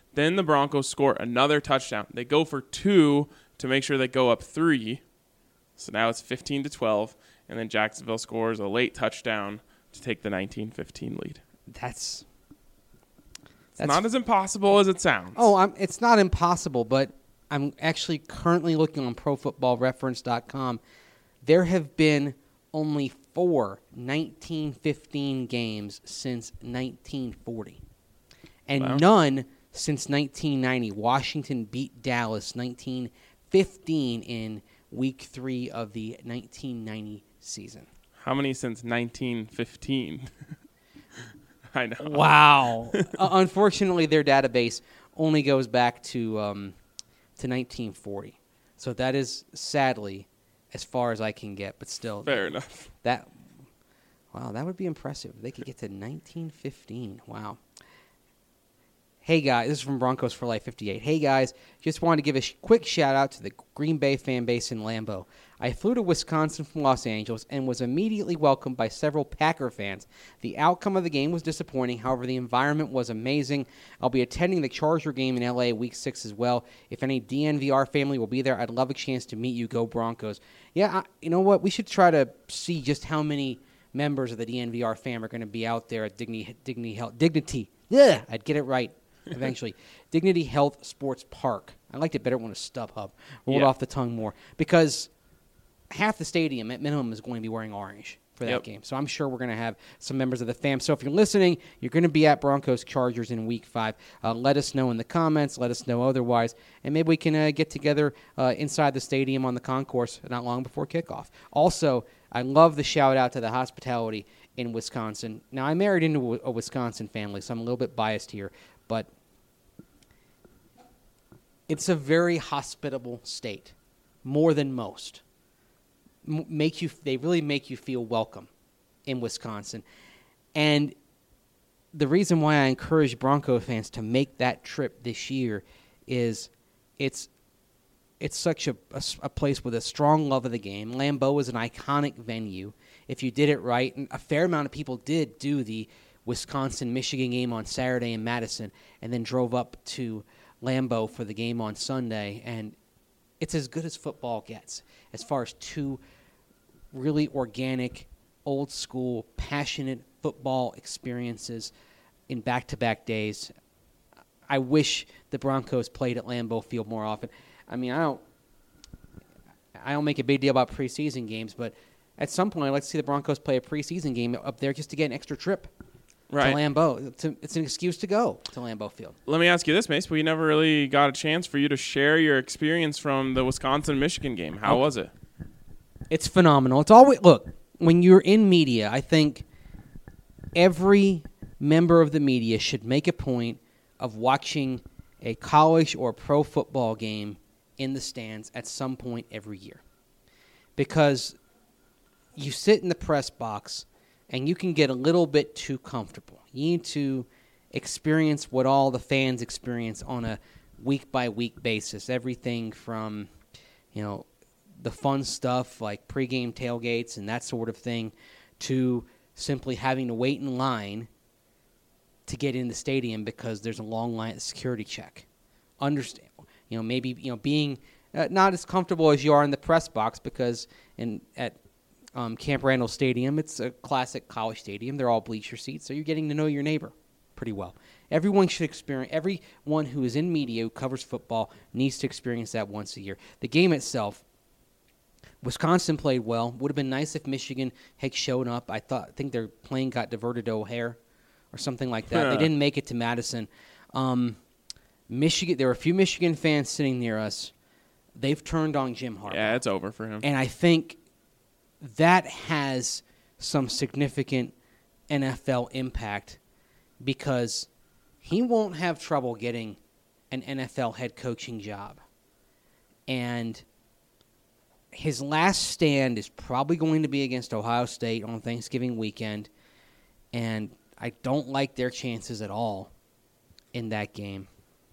Speaker 2: Then the Broncos score another touchdown. They go for two to make sure they go up three. So now it's fifteen to twelve. And then Jacksonville scores a late touchdown to take the nineteen fifteen lead.
Speaker 3: That's,
Speaker 2: It's
Speaker 3: that's
Speaker 2: not as impossible as it sounds.
Speaker 3: Oh, I'm, it's not impossible, but I'm actually currently looking on pro football reference dot com. There have been only four nineteen fifteen games since nineteen forty. And
Speaker 2: Wow.
Speaker 3: none since nineteen ninety. Washington beat Dallas nineteen fifteen in week three of the nineteen ninety season.
Speaker 2: How many since nineteen fifteen? I know.
Speaker 3: Wow. uh, unfortunately, their database only goes back to um, to nineteen forty. So that is sadly as far as I can get, but still.
Speaker 2: Fair enough.
Speaker 3: That wow, that would be impressive. They could get to nineteen fifteen. Wow. Hey guys, this is from Broncos for Life fifty-eight. Hey guys, just wanted to give a sh- quick shout out to the Green Bay fan base in Lambeau. I flew to Wisconsin from Los Angeles and was immediately welcomed by several Packer fans. The outcome of the game was disappointing, however, the environment was amazing. I'll be attending the Charger game in L A week six as well. If any D N V R family will be there, I'd love a chance to meet you. Go Broncos. Yeah, I, you know what? We should try to see just how many members of the D N V R fam are going to be out there at Dignity, Dignity Health. Dignity. Yeah, I'd get it right. Eventually. Dignity Health Sports Park. I liked it better when it was StubHub. Rolled
Speaker 2: Yeah.
Speaker 3: off the tongue more. Because half the stadium, at minimum, is going to be wearing orange for that
Speaker 2: Yep.
Speaker 3: game. So I'm sure we're going to have some members of the fam. So if you're listening, you're going to be at Broncos Chargers in week five. Uh, let us know in the comments. Let us know otherwise. And maybe we can uh, get together uh, inside the stadium on the concourse not long before kickoff. Also, I love the shout-out to the hospitality in Wisconsin. Now, I married into a a Wisconsin family, so I'm a little bit biased here. But it's a very hospitable state, more than most. M- make you, they really make you feel welcome in Wisconsin. And the reason why I encourage Bronco fans to make that trip this year is it's it's such a, a, a place with a strong love of the game. Lambeau is an iconic venue. If you did it right, and a fair amount of people did do the Wisconsin-Michigan game on Saturday in Madison and then drove up to Lambeau for the game on Sunday, and it's as good as football gets as far as two really organic, old-school, passionate football experiences in back-to-back days. I wish the Broncos played at Lambeau Field more often. I mean, I don't I don't make a big deal about preseason games, but at some point I'd like to see the Broncos play a preseason game up there just to get an extra trip.
Speaker 2: Right.
Speaker 3: To Lambeau. It's, a, it's an excuse to go to Lambeau Field.
Speaker 2: Let me ask you this, Mace. We never really got a chance for you to share your experience from the Wisconsin-Michigan game. How
Speaker 3: Oh.
Speaker 2: was it?
Speaker 3: It's phenomenal. It's always look, when you're in media, I think every member of the media should make a point of watching a college or pro football game in the stands at some point every year. Because you sit in the press box and you can get a little bit too comfortable. You need to experience what all the fans experience on a week-by-week basis. Everything from, you know, the fun stuff like pregame tailgates and that sort of thing to simply having to wait in line to get in the stadium because there's a long line at the security check. Understand, you know, maybe, you know, being uh, not as comfortable as you are in the press box because in at um, Camp Randall Stadium, it's a classic college stadium. They're all bleacher seats, so you're getting to know your neighbor pretty well. Everyone should experience, everyone who is in media who covers football needs to experience that once a year. The game itself, Wisconsin played well. Would have been nice if Michigan had shown up. I thought, I think their plane got diverted to O'Hare or something like that. They didn't make it to Madison. Um, Michigan, there were a few Michigan fans sitting near us. They've turned on Jim Harbaugh.
Speaker 2: Yeah, it's over for him.
Speaker 3: And I think that has some significant N F L impact because he won't have trouble getting an N F L head coaching job. And his last stand is probably going to be against Ohio State on Thanksgiving weekend. And I don't like their chances at all in that game.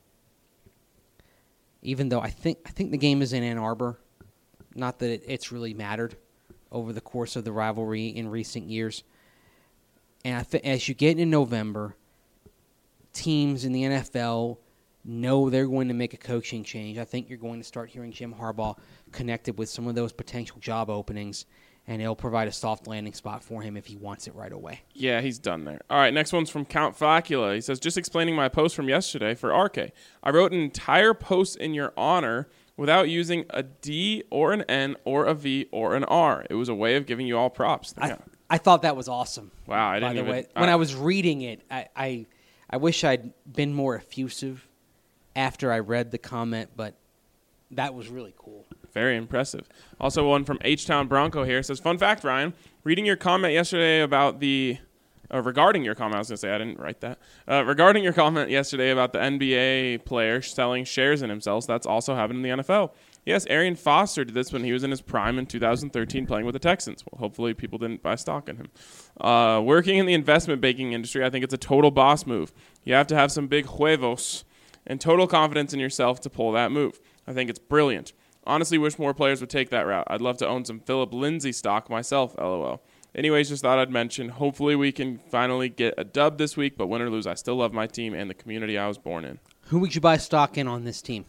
Speaker 3: Even though I think I think the game is in Ann Arbor. Not that it, it's really mattered over the course of the rivalry in recent years. And I th- as you get in November, teams in the N F L know they're going to make a coaching change. I think you're going to start hearing Jim Harbaugh connected with some of those potential job openings, and it'll provide a soft landing spot for him if he wants it right away.
Speaker 2: Yeah, he's done there. All right, next one's from Count Flacula. He says, just explaining my post from yesterday for R K. I wrote an entire post in your honor without using a D or an N or a V or an R. It was a way of giving you all props.
Speaker 3: I,
Speaker 2: Yeah.
Speaker 3: I thought that was awesome.
Speaker 2: Wow, I didn't
Speaker 3: by the
Speaker 2: even...
Speaker 3: way.
Speaker 2: I,
Speaker 3: When I was reading it, I, I, I wish I'd been more effusive after I read the comment, but that was really cool.
Speaker 2: Very impressive. Also, one from H-Town Bronco here says, fun fact, Ryan, reading your comment yesterday about the, uh, regarding your comment, I was going to say, I didn't write that. Uh, regarding your comment yesterday about the N B A player selling shares in himself, that's also happened in the N F L. Yes, Arian Foster did this when he was in his prime in two thousand thirteen playing with the Texans. Well, hopefully people didn't buy stock in him. Uh, working in the investment banking industry, I think it's a total boss move. You have to have some big huevos and total confidence in yourself to pull that move. I think it's brilliant. Honestly, wish more players would take that route. I'd love to own some Philip Lindsay stock myself, LOL. Anyways, just thought I'd mention, hopefully we can finally get a dub this week, but win or lose, I still love my team and the community I was born in.
Speaker 3: Who would you buy stock in on this team?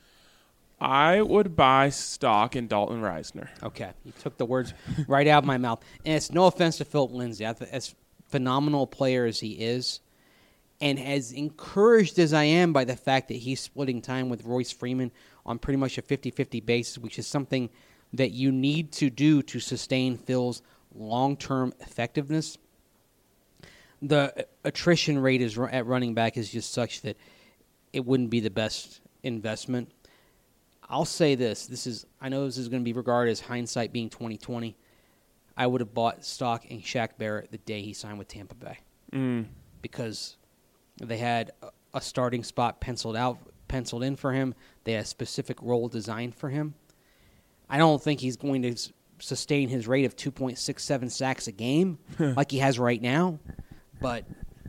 Speaker 2: I would buy stock in Dalton Reisner.
Speaker 3: Okay, you took the words right out of my mouth. And it's no offense to Philip Lindsay. I th- as phenomenal a player as he is, and as encouraged as I am by the fact that he's splitting time with Royce Freeman on pretty much a fifty-fifty basis, which is something that you need to do to sustain Phil's long-term effectiveness. The attrition rate is at running back is just such that it wouldn't be the best investment. I'll say this. This is I know this is going to be regarded as hindsight being twenty twenty. I would have bought stock in Shaq Barrett the day he signed with Tampa Bay.
Speaker 2: Mm.
Speaker 3: Because they had a starting spot penciled out, penciled in for him. They had a specific role designed for him. I don't think he's going to sustain his rate of two point six seven sacks a game like he has right now, but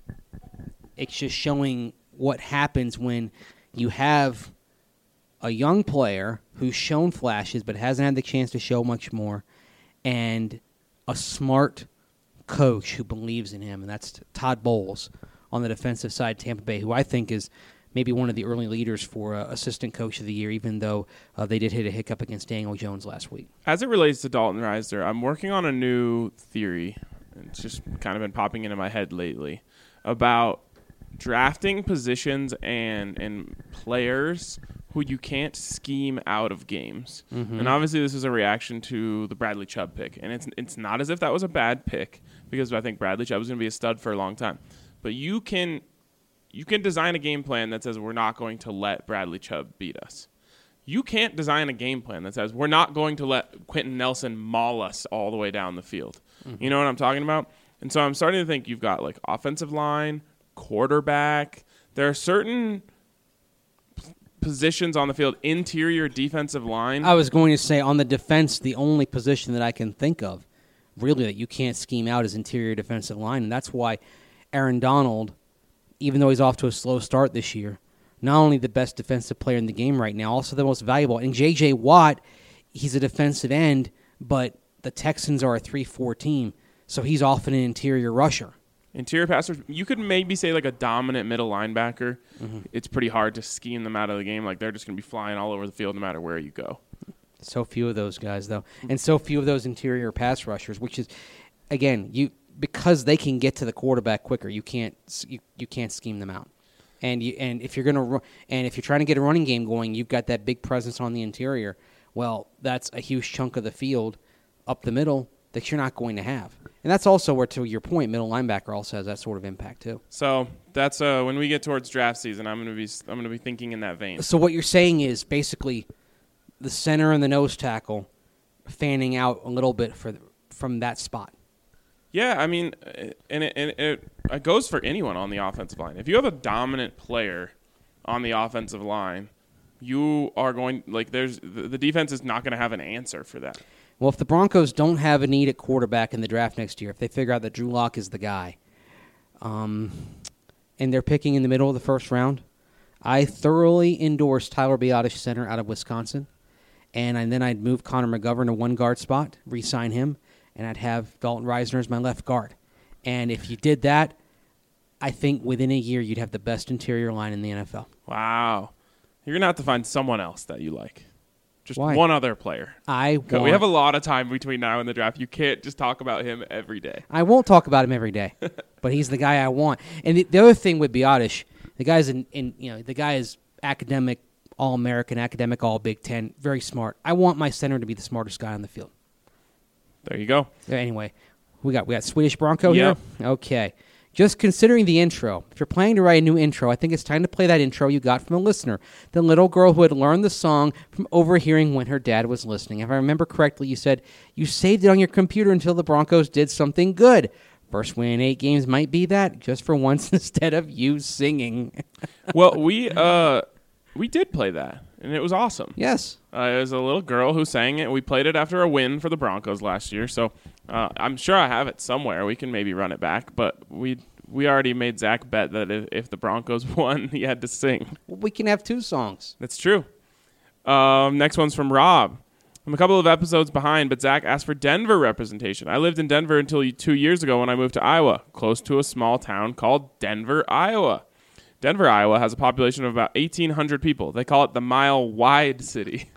Speaker 3: it's just showing what happens when you have a young player who's shown flashes but hasn't had the chance to show much more, and a smart coach who believes in him, and that's Todd Bowles on the defensive side, Tampa Bay, who I think is maybe one of the early leaders for uh, assistant coach of the year, even though uh, they did hit a hiccup against Daniel Jones last week.
Speaker 2: As it relates to Dalton Reisner, I'm working on a new theory. It's just kind of been popping into my head lately about drafting positions and and players who you can't scheme out of games. Mm-hmm. And obviously this is a reaction to the Bradley Chubb pick. And it's it's not as if that was a bad pick, because I think Bradley Chubb is going to be a stud for a long time. But you can you can design a game plan that says we're not going to let Bradley Chubb beat us. You can't design a game plan that says we're not going to let Quentin Nelson maul us all the way down the field. Mm-hmm. You know what I'm talking about? And so I'm starting to think you've got like offensive line, quarterback. There are certain p- positions on the field, interior defensive line.
Speaker 3: I was going to say on the defense, the only position that I can think of really that you can't scheme out is interior defensive line. And that's why Aaron Donald, even though he's off to a slow start this year, not only the best defensive player in the game right now, also the most valuable. And J J. Watt, he's a defensive end, but the Texans are a three four team, so he's often an interior rusher.
Speaker 2: Interior passers, you could maybe say like a dominant middle linebacker. Mm-hmm. It's pretty hard to scheme them out of the game. Like they're just going to be flying all over the field no matter where you go.
Speaker 3: So few of those guys, though, and so few of those interior pass rushers, which is, again, you because they can get to the quarterback quicker. You can't you, you can't scheme them out. And you and if you're gonna ru- and if you're trying to get a running game going, you've got that big presence on the interior. Well, that's a huge chunk of the field up the middle that you're not going to have. And that's also where, to your point, middle linebacker also has that sort of impact too.
Speaker 2: So that's uh, when we get towards draft season, I'm gonna be I'm gonna be thinking in that vein.
Speaker 3: So what you're saying is basically the center and the nose tackle fanning out a little bit for the, from that spot.
Speaker 2: Yeah, I mean, and it, and it, it goes for anyone on the offensive line. If you have a dominant player on the offensive line, you are going like there's the defense is not going to have an answer for that.
Speaker 3: Well, if the Broncos don't have a need at quarterback in the draft next year, if they figure out that Drew Lock is the guy, um, and they're picking in the middle of the first round, I thoroughly endorse Tyler Biadasz, center out of Wisconsin, and, and then I'd move Connor McGovern to one guard spot, re-sign him, and I'd have Dalton Reisner as my left guard. And if you did that, I think within a year you'd have the best interior line in the N F L.
Speaker 2: Wow. You're going to have to find someone else that you like. Just
Speaker 3: Why?
Speaker 2: one other player.
Speaker 3: I want,
Speaker 2: We have a lot of time between now and the draft. You can't just talk about him every day.
Speaker 3: I won't talk about him every day, but he's the guy I want. And the, the other thing with Biotish, the guy's in, in you know the guy is academic, all American, academic, all Big Ten, very smart. I want my center to be the smartest guy on the field.
Speaker 2: There you go.
Speaker 3: Anyway, we got we got Swedish Bronco
Speaker 2: Yeah.
Speaker 3: here. Okay. Just considering the intro, if you're planning to write a new intro, I think it's time to play that intro you got from a listener, the little girl who had learned the song from overhearing when her dad was listening. If I remember correctly, you said you saved it on your computer until the Broncos did something good. First win in eight games might be that, just for once instead of you singing.
Speaker 2: Well, we uh, we did play that, and it was awesome.
Speaker 3: Yes.
Speaker 2: Uh, it was a little girl who sang it. We played it after a win for the Broncos last year, so uh, I'm sure I have it somewhere. We can maybe run it back, but we we already made Zach bet that if, if the Broncos won, he had to sing.
Speaker 3: Well, we can have two songs.
Speaker 2: That's true. Um, next one's from Rob. I'm a couple of episodes behind, but Zach asked for Denver representation. I lived in Denver until two years ago when I moved to Iowa, close to a small town called Denver, Iowa. Denver, Iowa has a population of about eighteen hundred people. They call it the mile-wide city.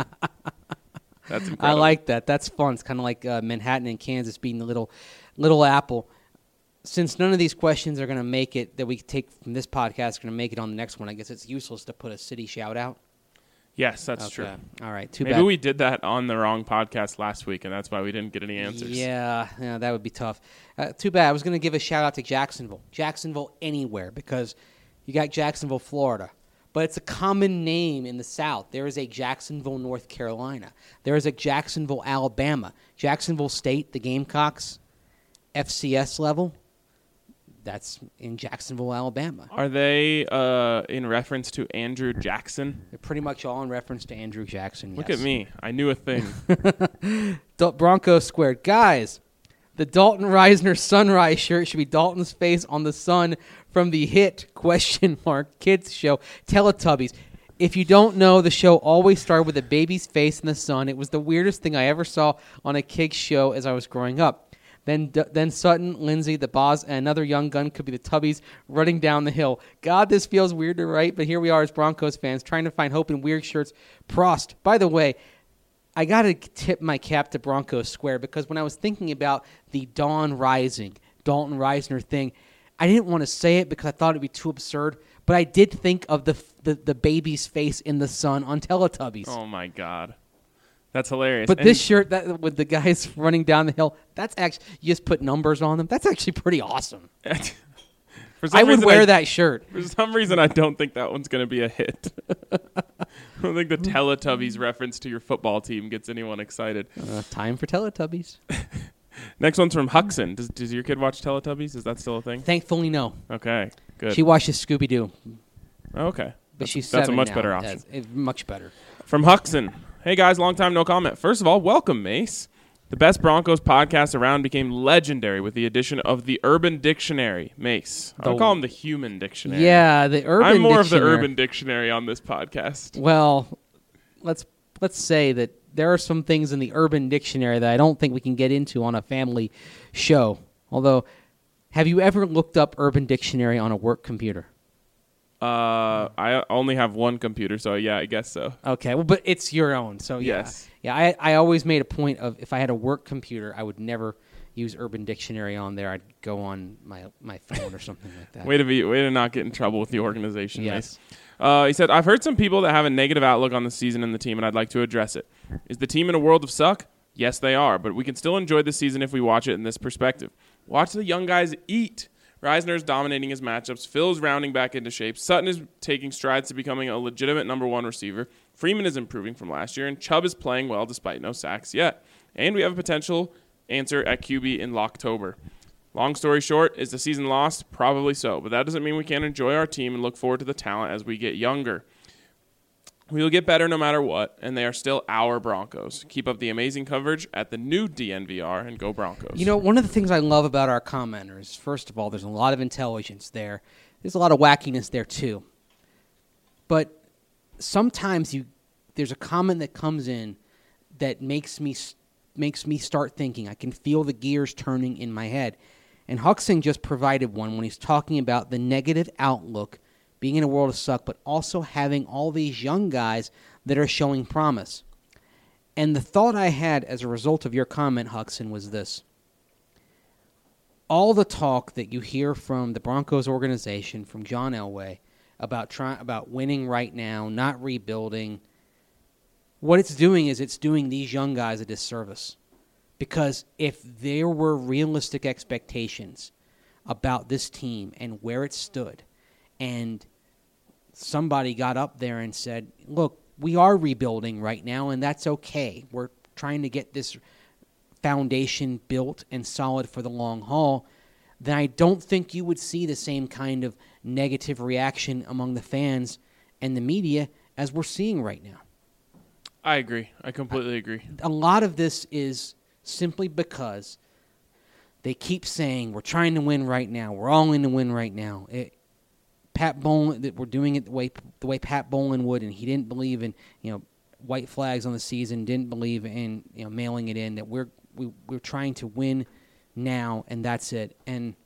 Speaker 2: That's incredible.
Speaker 3: I like that. That's fun. It's kind of like uh, Manhattan and Kansas being the little, little apple. Since none of these questions are going to make it, that we take from this podcast, are going to make it on the next one, I guess it's useless to put a city shout-out.
Speaker 2: Yes, that's
Speaker 3: Okay.
Speaker 2: true.
Speaker 3: All right. Too
Speaker 2: Maybe
Speaker 3: bad.
Speaker 2: we did that on the wrong podcast last week, and that's why we didn't get any answers.
Speaker 3: Yeah, yeah, that would be tough. Uh, too bad. I was going to give a shout out to Jacksonville. Jacksonville anywhere, because you got Jacksonville, Florida. But it's a common name in the South. There is a Jacksonville, North Carolina. There is a Jacksonville, Alabama. Jacksonville State, the Gamecocks, F C S level, that's in Jacksonville, Alabama.
Speaker 2: Are they uh, in reference to Andrew Jackson?
Speaker 3: They're pretty much all in reference to Andrew Jackson.
Speaker 2: Look
Speaker 3: yes.
Speaker 2: at me. I knew a thing.
Speaker 3: Dal- Broncos squared. Guys, the Dalton Reisner sunrise shirt should be Dalton's face on the sun from the hit question mark kids show Teletubbies. If you don't know, the show always started with a baby's face in the sun. It was the weirdest thing I ever saw on a kids show as I was growing up. Then then Sutton, Lindsay, the boss, and another young gun could be the Tubbies running down the hill. God, this feels weird to write, but here we are as Broncos fans trying to find hope in weird shirts. Prost. By the way, I got to tip my cap to Broncos Square because when I was thinking about the Dawn Rising, Dalton Reisner thing, I didn't want to say it because I thought it would be too absurd, but I did think of the, the, the baby's face in the sun on Teletubbies.
Speaker 2: Oh, my God. That's hilarious.
Speaker 3: But
Speaker 2: And
Speaker 3: this shirt that with the guys running down the hill, that's actually, you just put numbers on them. That's actually pretty awesome.
Speaker 2: for some
Speaker 3: I would
Speaker 2: reason,
Speaker 3: wear
Speaker 2: I,
Speaker 3: that shirt.
Speaker 2: For some reason, I don't think that one's going to be a hit. I don't think the Teletubbies reference to your football team gets anyone excited.
Speaker 3: Uh, time for Teletubbies.
Speaker 2: Next one's from Huxon. Does, does your kid watch Teletubbies? Is that still a thing?
Speaker 3: Thankfully, no.
Speaker 2: Okay, good.
Speaker 3: She watches Scooby-Doo,
Speaker 2: okay.
Speaker 3: but
Speaker 2: That's,
Speaker 3: she's
Speaker 2: that's a
Speaker 3: seven
Speaker 2: much
Speaker 3: now.
Speaker 2: better option.
Speaker 3: That's, it's much better.
Speaker 2: From Huxon. Hey, guys, long time no comment. First of all, welcome, Mace. The best Broncos podcast around became legendary with the addition of the Urban Dictionary. Mace. I would
Speaker 3: The-
Speaker 2: call him the Human Dictionary.
Speaker 3: Yeah, the Urban
Speaker 2: I'm more
Speaker 3: Dictionary.
Speaker 2: of the Urban Dictionary on this podcast.
Speaker 3: Well, let's let's say that there are some things in the Urban Dictionary that I don't think we can get into on a family show. Although, have you ever looked up Urban Dictionary on a work computer?
Speaker 2: Uh, I only have one computer, so yeah, I guess so.
Speaker 3: Okay, well, but it's your own, so yeah.
Speaker 2: Yes.
Speaker 3: Yeah, I, I always made a point of if I had a work computer, I would never use Urban Dictionary on there. I'd go on my my phone or something like that.
Speaker 2: Way to be, way to not get in trouble with the organization.
Speaker 3: Yes.
Speaker 2: Mace. Uh, he said, I've heard some people that have a negative outlook on the season and the team, and I'd like to address it. Is the team in a world of suck? Yes, they are, but we can still enjoy the season if we watch it in this perspective. Watch the young guys eat. Reisner's dominating his matchups. Phil's rounding back into shape. Sutton is taking strides to becoming a legitimate number one receiver. Freeman is improving from last year, and Chubb is playing well despite no sacks yet. And we have a potential answer at Q B in Locktober. Long story short, is the season lost? Probably so, but that doesn't mean we can't enjoy our team and look forward to the talent as we get younger. We will get better no matter what, and they are still our Broncos. Keep up the amazing coverage at the new D N V R, and go Broncos.
Speaker 3: You know, one of the things I love about our commenters, first of all, there's a lot of intelligence there. There's a lot of wackiness there, too. But sometimes you, there's a comment that comes in that makes me makes me start thinking. I can feel the gears turning in my head. And Huxing just provided one when he's talking about the negative outlook, being in a world of suck, but also having all these young guys that are showing promise. And the thought I had as a result of your comment, Huxon, was this. All the talk that you hear from the Broncos organization, from John Elway, about trying about winning right now, not rebuilding, what it's doing is it's doing these young guys a disservice. Because if there were realistic expectations about this team and where it stood, and somebody got up there and said, look, we are rebuilding right now, and that's okay. We're trying to get this foundation built and solid for the long haul, then I don't think you would see the same kind of negative reaction among the fans and the media as we're seeing right now.
Speaker 2: I agree. I completely agree.
Speaker 3: A lot of this is simply because they keep saying, we're trying to win right now. We're all in to win right now. It, Pat Bowlen, that we're doing it the way the way Pat Bowlen would, and he didn't believe in, you know, white flags on the season, didn't believe in, you know, mailing it in, that we're we, we're trying to win now, and that's it. And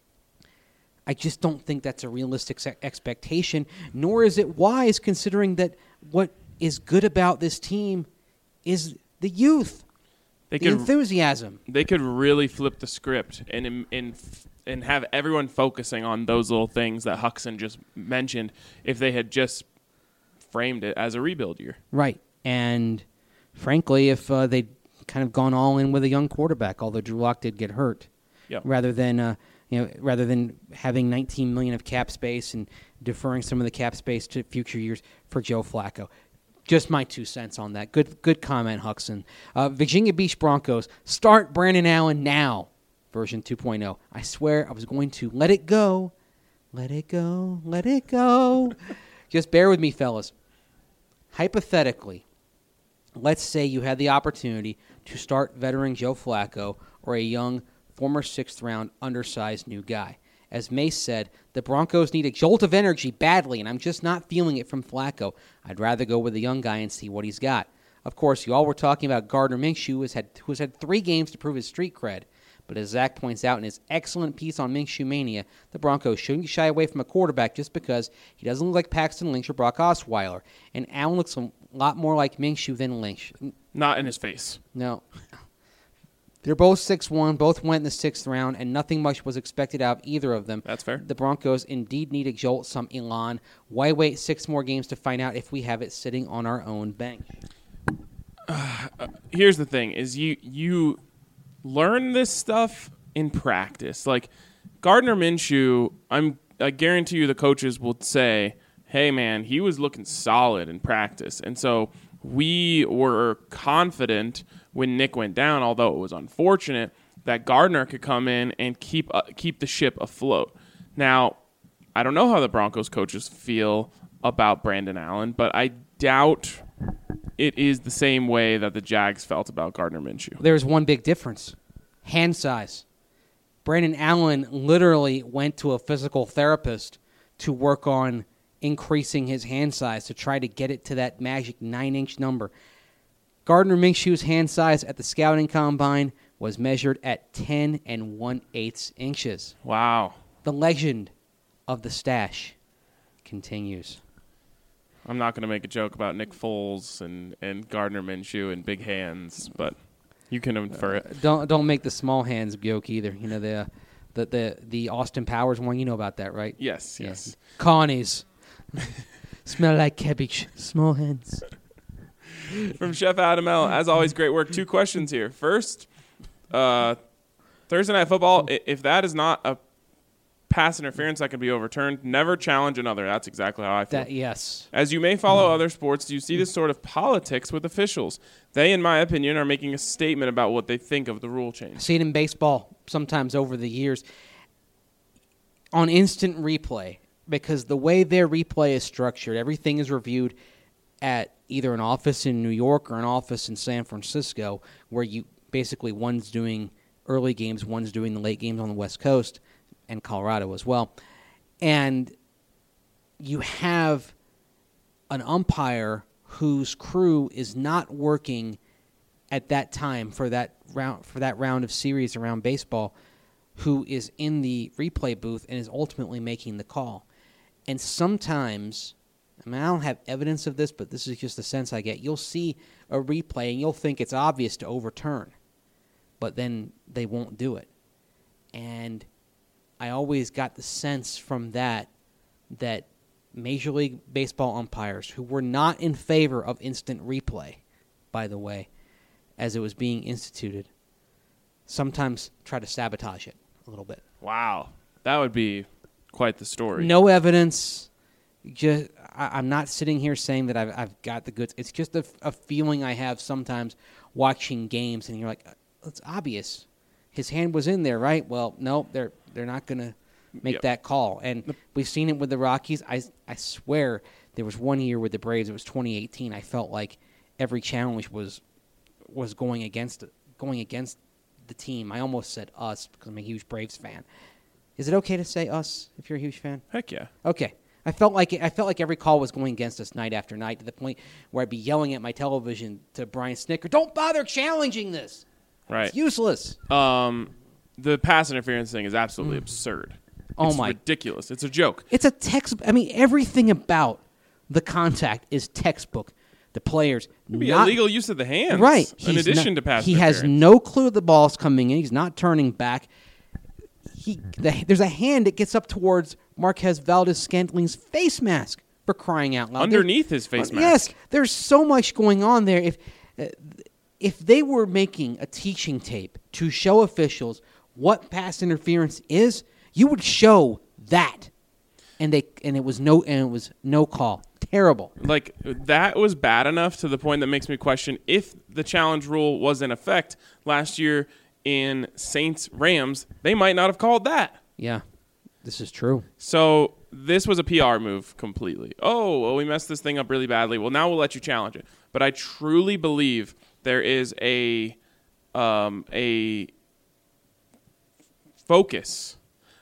Speaker 3: I just don't think that's a realistic se- expectation, nor is it wise, considering that what is good about this team is the youth,
Speaker 2: they
Speaker 3: the
Speaker 2: could,
Speaker 3: enthusiasm.
Speaker 2: They could really flip the script and and and have everyone focusing on those little things that Huxon just mentioned if they had just framed it as a rebuild year.
Speaker 3: Right. And frankly, if uh, they'd kind of gone all in with a young quarterback, although Drew Lock did get hurt,
Speaker 2: yep.
Speaker 3: rather than uh, you know, rather than having nineteen million dollars of cap space and deferring some of the cap space to future years for Joe Flacco. Just my two cents on that. Good good comment, Huxon. Uh, Virginia Beach Broncos, start Brandon Allen now, version two point oh. I swear I was going to let it go. Let it go. Let it go. Just bear with me, fellas. Hypothetically, let's say you had the opportunity to start veteran Joe Flacco or a young former sixth-round undersized new guy. As Mace said, the Broncos need a jolt of energy badly, and I'm just not feeling it from Flacco. I'd rather go with the young guy and see what he's got. Of course, you all were talking about Gardner Minshew, who has had, who has had three games to prove his street cred. But as Zach points out in his excellent piece on Minshew Mania, the Broncos shouldn't shy away from a quarterback just because he doesn't look like Paxton Lynch or Brock Osweiler. And Allen looks a lot more like Minshew than Lynch.
Speaker 2: Not in his face.
Speaker 3: No. They're both six one, both went in the sixth round, and nothing much was expected out of either of them.
Speaker 2: That's fair.
Speaker 3: The Broncos indeed need a jolt, some elan. Why wait six more games to find out if we have it sitting on our own bench?
Speaker 2: Uh, here's the thing, is you you learn this stuff in practice. Like, Gardner Minshew, I'm, I guarantee you the coaches will say, hey, man, he was looking solid in practice. And so we were confident when Nick went down, although it was unfortunate, that Gardner could come in and keep uh, keep the ship afloat. Now, I don't know how the Broncos coaches feel about Brandon Allen, but I doubt it is the same way that the Jags felt about Gardner Minshew.
Speaker 3: There's one big difference. Hand size. Brandon Allen literally went to a physical therapist to work on increasing his hand size to try to get it to that magic nine-inch number. Gardner Minshew's hand size at the scouting combine was measured at ten and one-eighth inches.
Speaker 2: Wow.
Speaker 3: The legend of the stash continues.
Speaker 2: I'm not going to make a joke about Nick Foles and, and Gardner Minshew and big hands, but you can infer it.
Speaker 3: Uh, don't don't make the small hands joke either. You know, the the the, the Austin Powers one, you know about that, right?
Speaker 2: Yes, yes.
Speaker 3: yes. Connie's. Smell like cabbage. Small hands.
Speaker 2: From Chef Adam L. As always, great work. Two questions here. First, uh, Thursday Night Football, if that is not a pass interference that can be overturned, never challenge another. That's exactly how I feel.
Speaker 3: That, yes.
Speaker 2: As you may follow other sports, do you see this sort of politics with officials? They, in my opinion, are making a statement about what they think of the rule change.
Speaker 3: I've seen in baseball sometimes over the years on instant replay, because the way their replay is structured, everything is reviewed at either an office in New York or an office in San Francisco, where you basically one's doing early games, one's doing the late games on the West Coast, and Colorado as well. And you have an umpire whose crew is not working at that time for that round for that round of series around baseball who is in the replay booth and is ultimately making the call. And sometimes, I mean, I don't have evidence of this, but this is just the sense I get. You'll see a replay and you'll think it's obvious to overturn, but then they won't do it. And I always got the sense from that that Major League Baseball umpires, who were not in favor of instant replay, by the way, as it was being instituted, sometimes try to sabotage it a little bit.
Speaker 2: Wow. That would be quite the story.
Speaker 3: No evidence. Just, I, I'm not sitting here saying that I've, I've got the goods. It's just a, a feeling I have sometimes watching games, and you're like, it's obvious. His hand was in there, right? Well, no, they're they're not going to make
Speaker 2: Yep.
Speaker 3: that call. And we've seen it with the Rockies. I, I swear there was one year with the Braves, it was twenty eighteen, I felt like every challenge was was going against going against the team. I almost said us because I'm a huge Braves fan. Is it okay to say us if you're a huge fan?
Speaker 2: Heck yeah.
Speaker 3: Okay. I felt like I felt like every call was going against us night after night, to the point where I'd be yelling at my television to Brian Snicker, "Don't bother challenging this.
Speaker 2: Right.
Speaker 3: It's useless."
Speaker 2: Um, the pass interference thing is absolutely absurd.
Speaker 3: Oh
Speaker 2: it's
Speaker 3: my-
Speaker 2: ridiculous. It's a joke.
Speaker 3: It's a text. I mean, everything about the contact is textbook. The players
Speaker 2: It'd be
Speaker 3: not
Speaker 2: illegal use of the hands.
Speaker 3: right.
Speaker 2: In
Speaker 3: He's
Speaker 2: addition
Speaker 3: not-
Speaker 2: to pass
Speaker 3: he has
Speaker 2: interference.
Speaker 3: no clue the ball's coming in. He's not turning back. He the, there's a hand that gets up towards Marquez Valdez-Scantling's face mask, for crying out loud.
Speaker 2: Underneath his face
Speaker 3: Uh, Yes,
Speaker 2: mask.
Speaker 3: there's so much going on there. If uh, if they were making a teaching tape to show officials what pass interference is, you would show that, and they and it was no and it was no call. Terrible.
Speaker 2: Like, that was bad enough to the point that makes me question if the challenge rule was in effect last year in Saints-Rams, they might not have called that.
Speaker 3: Yeah, this is true.
Speaker 2: So this was a P R move completely. Oh, well, we messed this thing up really badly. Well, now we'll let you challenge it. But I truly believe there is a um, a focus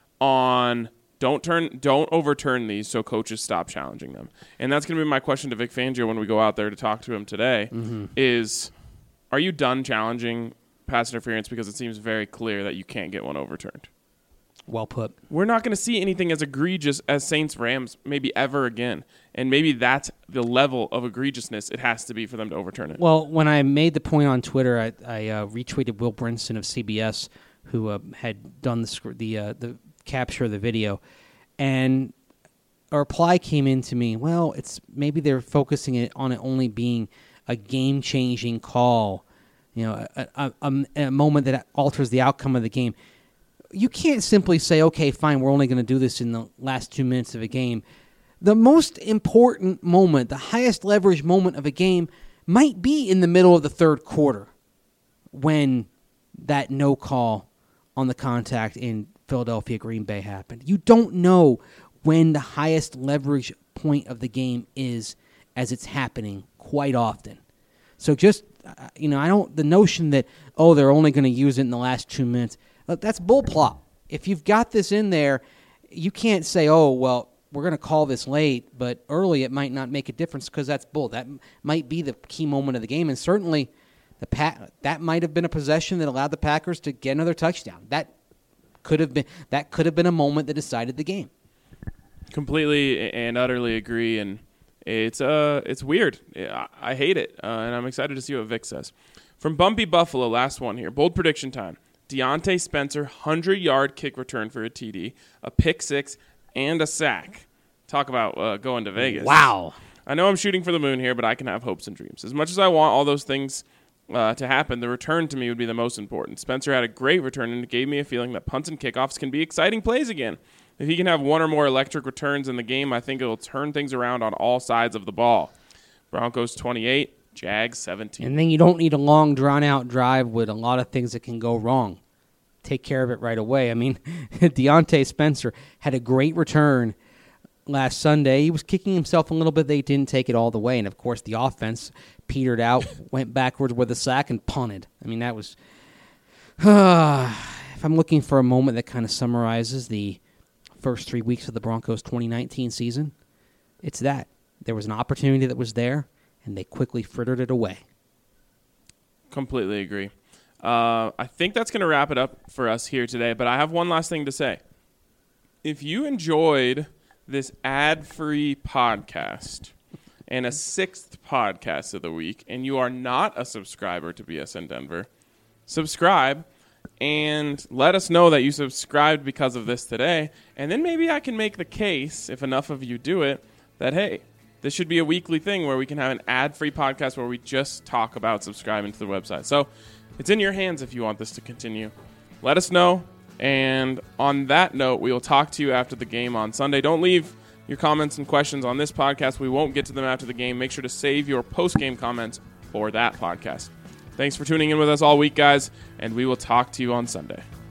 Speaker 2: on don't turn, don't overturn these, so coaches stop challenging them. And that's going to be my question to Vic Fangio when we go out there to talk to him today.
Speaker 3: Mm-hmm.
Speaker 2: Is, are you done challenging pass interference because it seems very clear that you can't get one overturned?
Speaker 3: Well put.
Speaker 2: We're not going to see anything as egregious as Saints-Rams maybe ever again. And maybe that's the level of egregiousness it has to be for them to overturn it.
Speaker 3: Well, when I made the point on Twitter, I, I uh, retweeted Will Brinson of C B S, who uh, had done the sc- the uh, the capture of the video, and a reply came in to me. Well, it's maybe they're focusing it on it only being a game-changing call, you know, a, a, a, a moment that alters the outcome of the game. You can't simply say, okay, fine, we're only going to do this in the last two minutes of a game. The most important moment, the highest leverage moment of a game, might be in the middle of the third quarter when that no call on the contact in Philadelphia Green Bay happened. You don't know when the highest leverage point of the game is as it's happening quite often. So just, uh, you know, I don't, the notion that, oh, they're only going to use it in the last two minutes, uh, that's bullplop. If you've got this in there, you can't say, oh, well, we're going to call this late, but early it might not make a difference, because that's bull. That m- might be the key moment of the game, and certainly the pa- that might have been a possession that allowed the Packers to get another touchdown. That could have been that could have been a moment that decided the game.
Speaker 2: Completely and utterly agree, and it's uh it's weird. I, I hate it, uh, and I'm excited to see what Vic says. From Bumpy Buffalo, last one here. Bold prediction time. Deontay Spencer, hundred-yard kick return for a T D, a pick six, and a sack. Talk about uh, going to Vegas.
Speaker 3: Wow.
Speaker 2: I know I'm shooting for the moon here, but I can have hopes and dreams. As much as I want all those things uh, to happen, the return to me would be the most important. Spencer had a great return, and it gave me a feeling that punts and kickoffs can be exciting plays again. If he can have one or more electric returns in the game, I think it'll turn things around on all sides of the ball. Broncos twenty-eight, Jags seventeen.
Speaker 3: And then you don't need a long, drawn-out drive with a lot of things that can go wrong. Take care of it right away. I mean, Deontay Spencer had a great return last Sunday. He was kicking himself a little bit. They didn't take it all the way. And, of course, the offense petered out, went backwards with a sack, and punted. I mean, that was uh, – if I'm looking for a moment that kind of summarizes the first three weeks of the Broncos' twenty nineteen season, it's that. There was an opportunity that was there, and they quickly frittered it away.
Speaker 2: Completely agree. Uh, I think that's going to wrap it up for us here today, but I have one last thing to say. If you enjoyed this ad-free podcast and a sixth podcast of the week, and you are not a subscriber to B S N Denver, subscribe and let us know that you subscribed because of this today, and then maybe I can make the case, if enough of you do it, that, hey, this should be a weekly thing where we can have an ad-free podcast where we just talk about subscribing to the website. So it's in your hands if you want this to continue. Let us know. And on that note, we will talk to you after the game on Sunday. Don't leave your comments and questions on this podcast. We won't get to them after the game. Make sure to save your post-game comments for that podcast. Thanks for tuning in with us all week, guys, and we will talk to you on Sunday.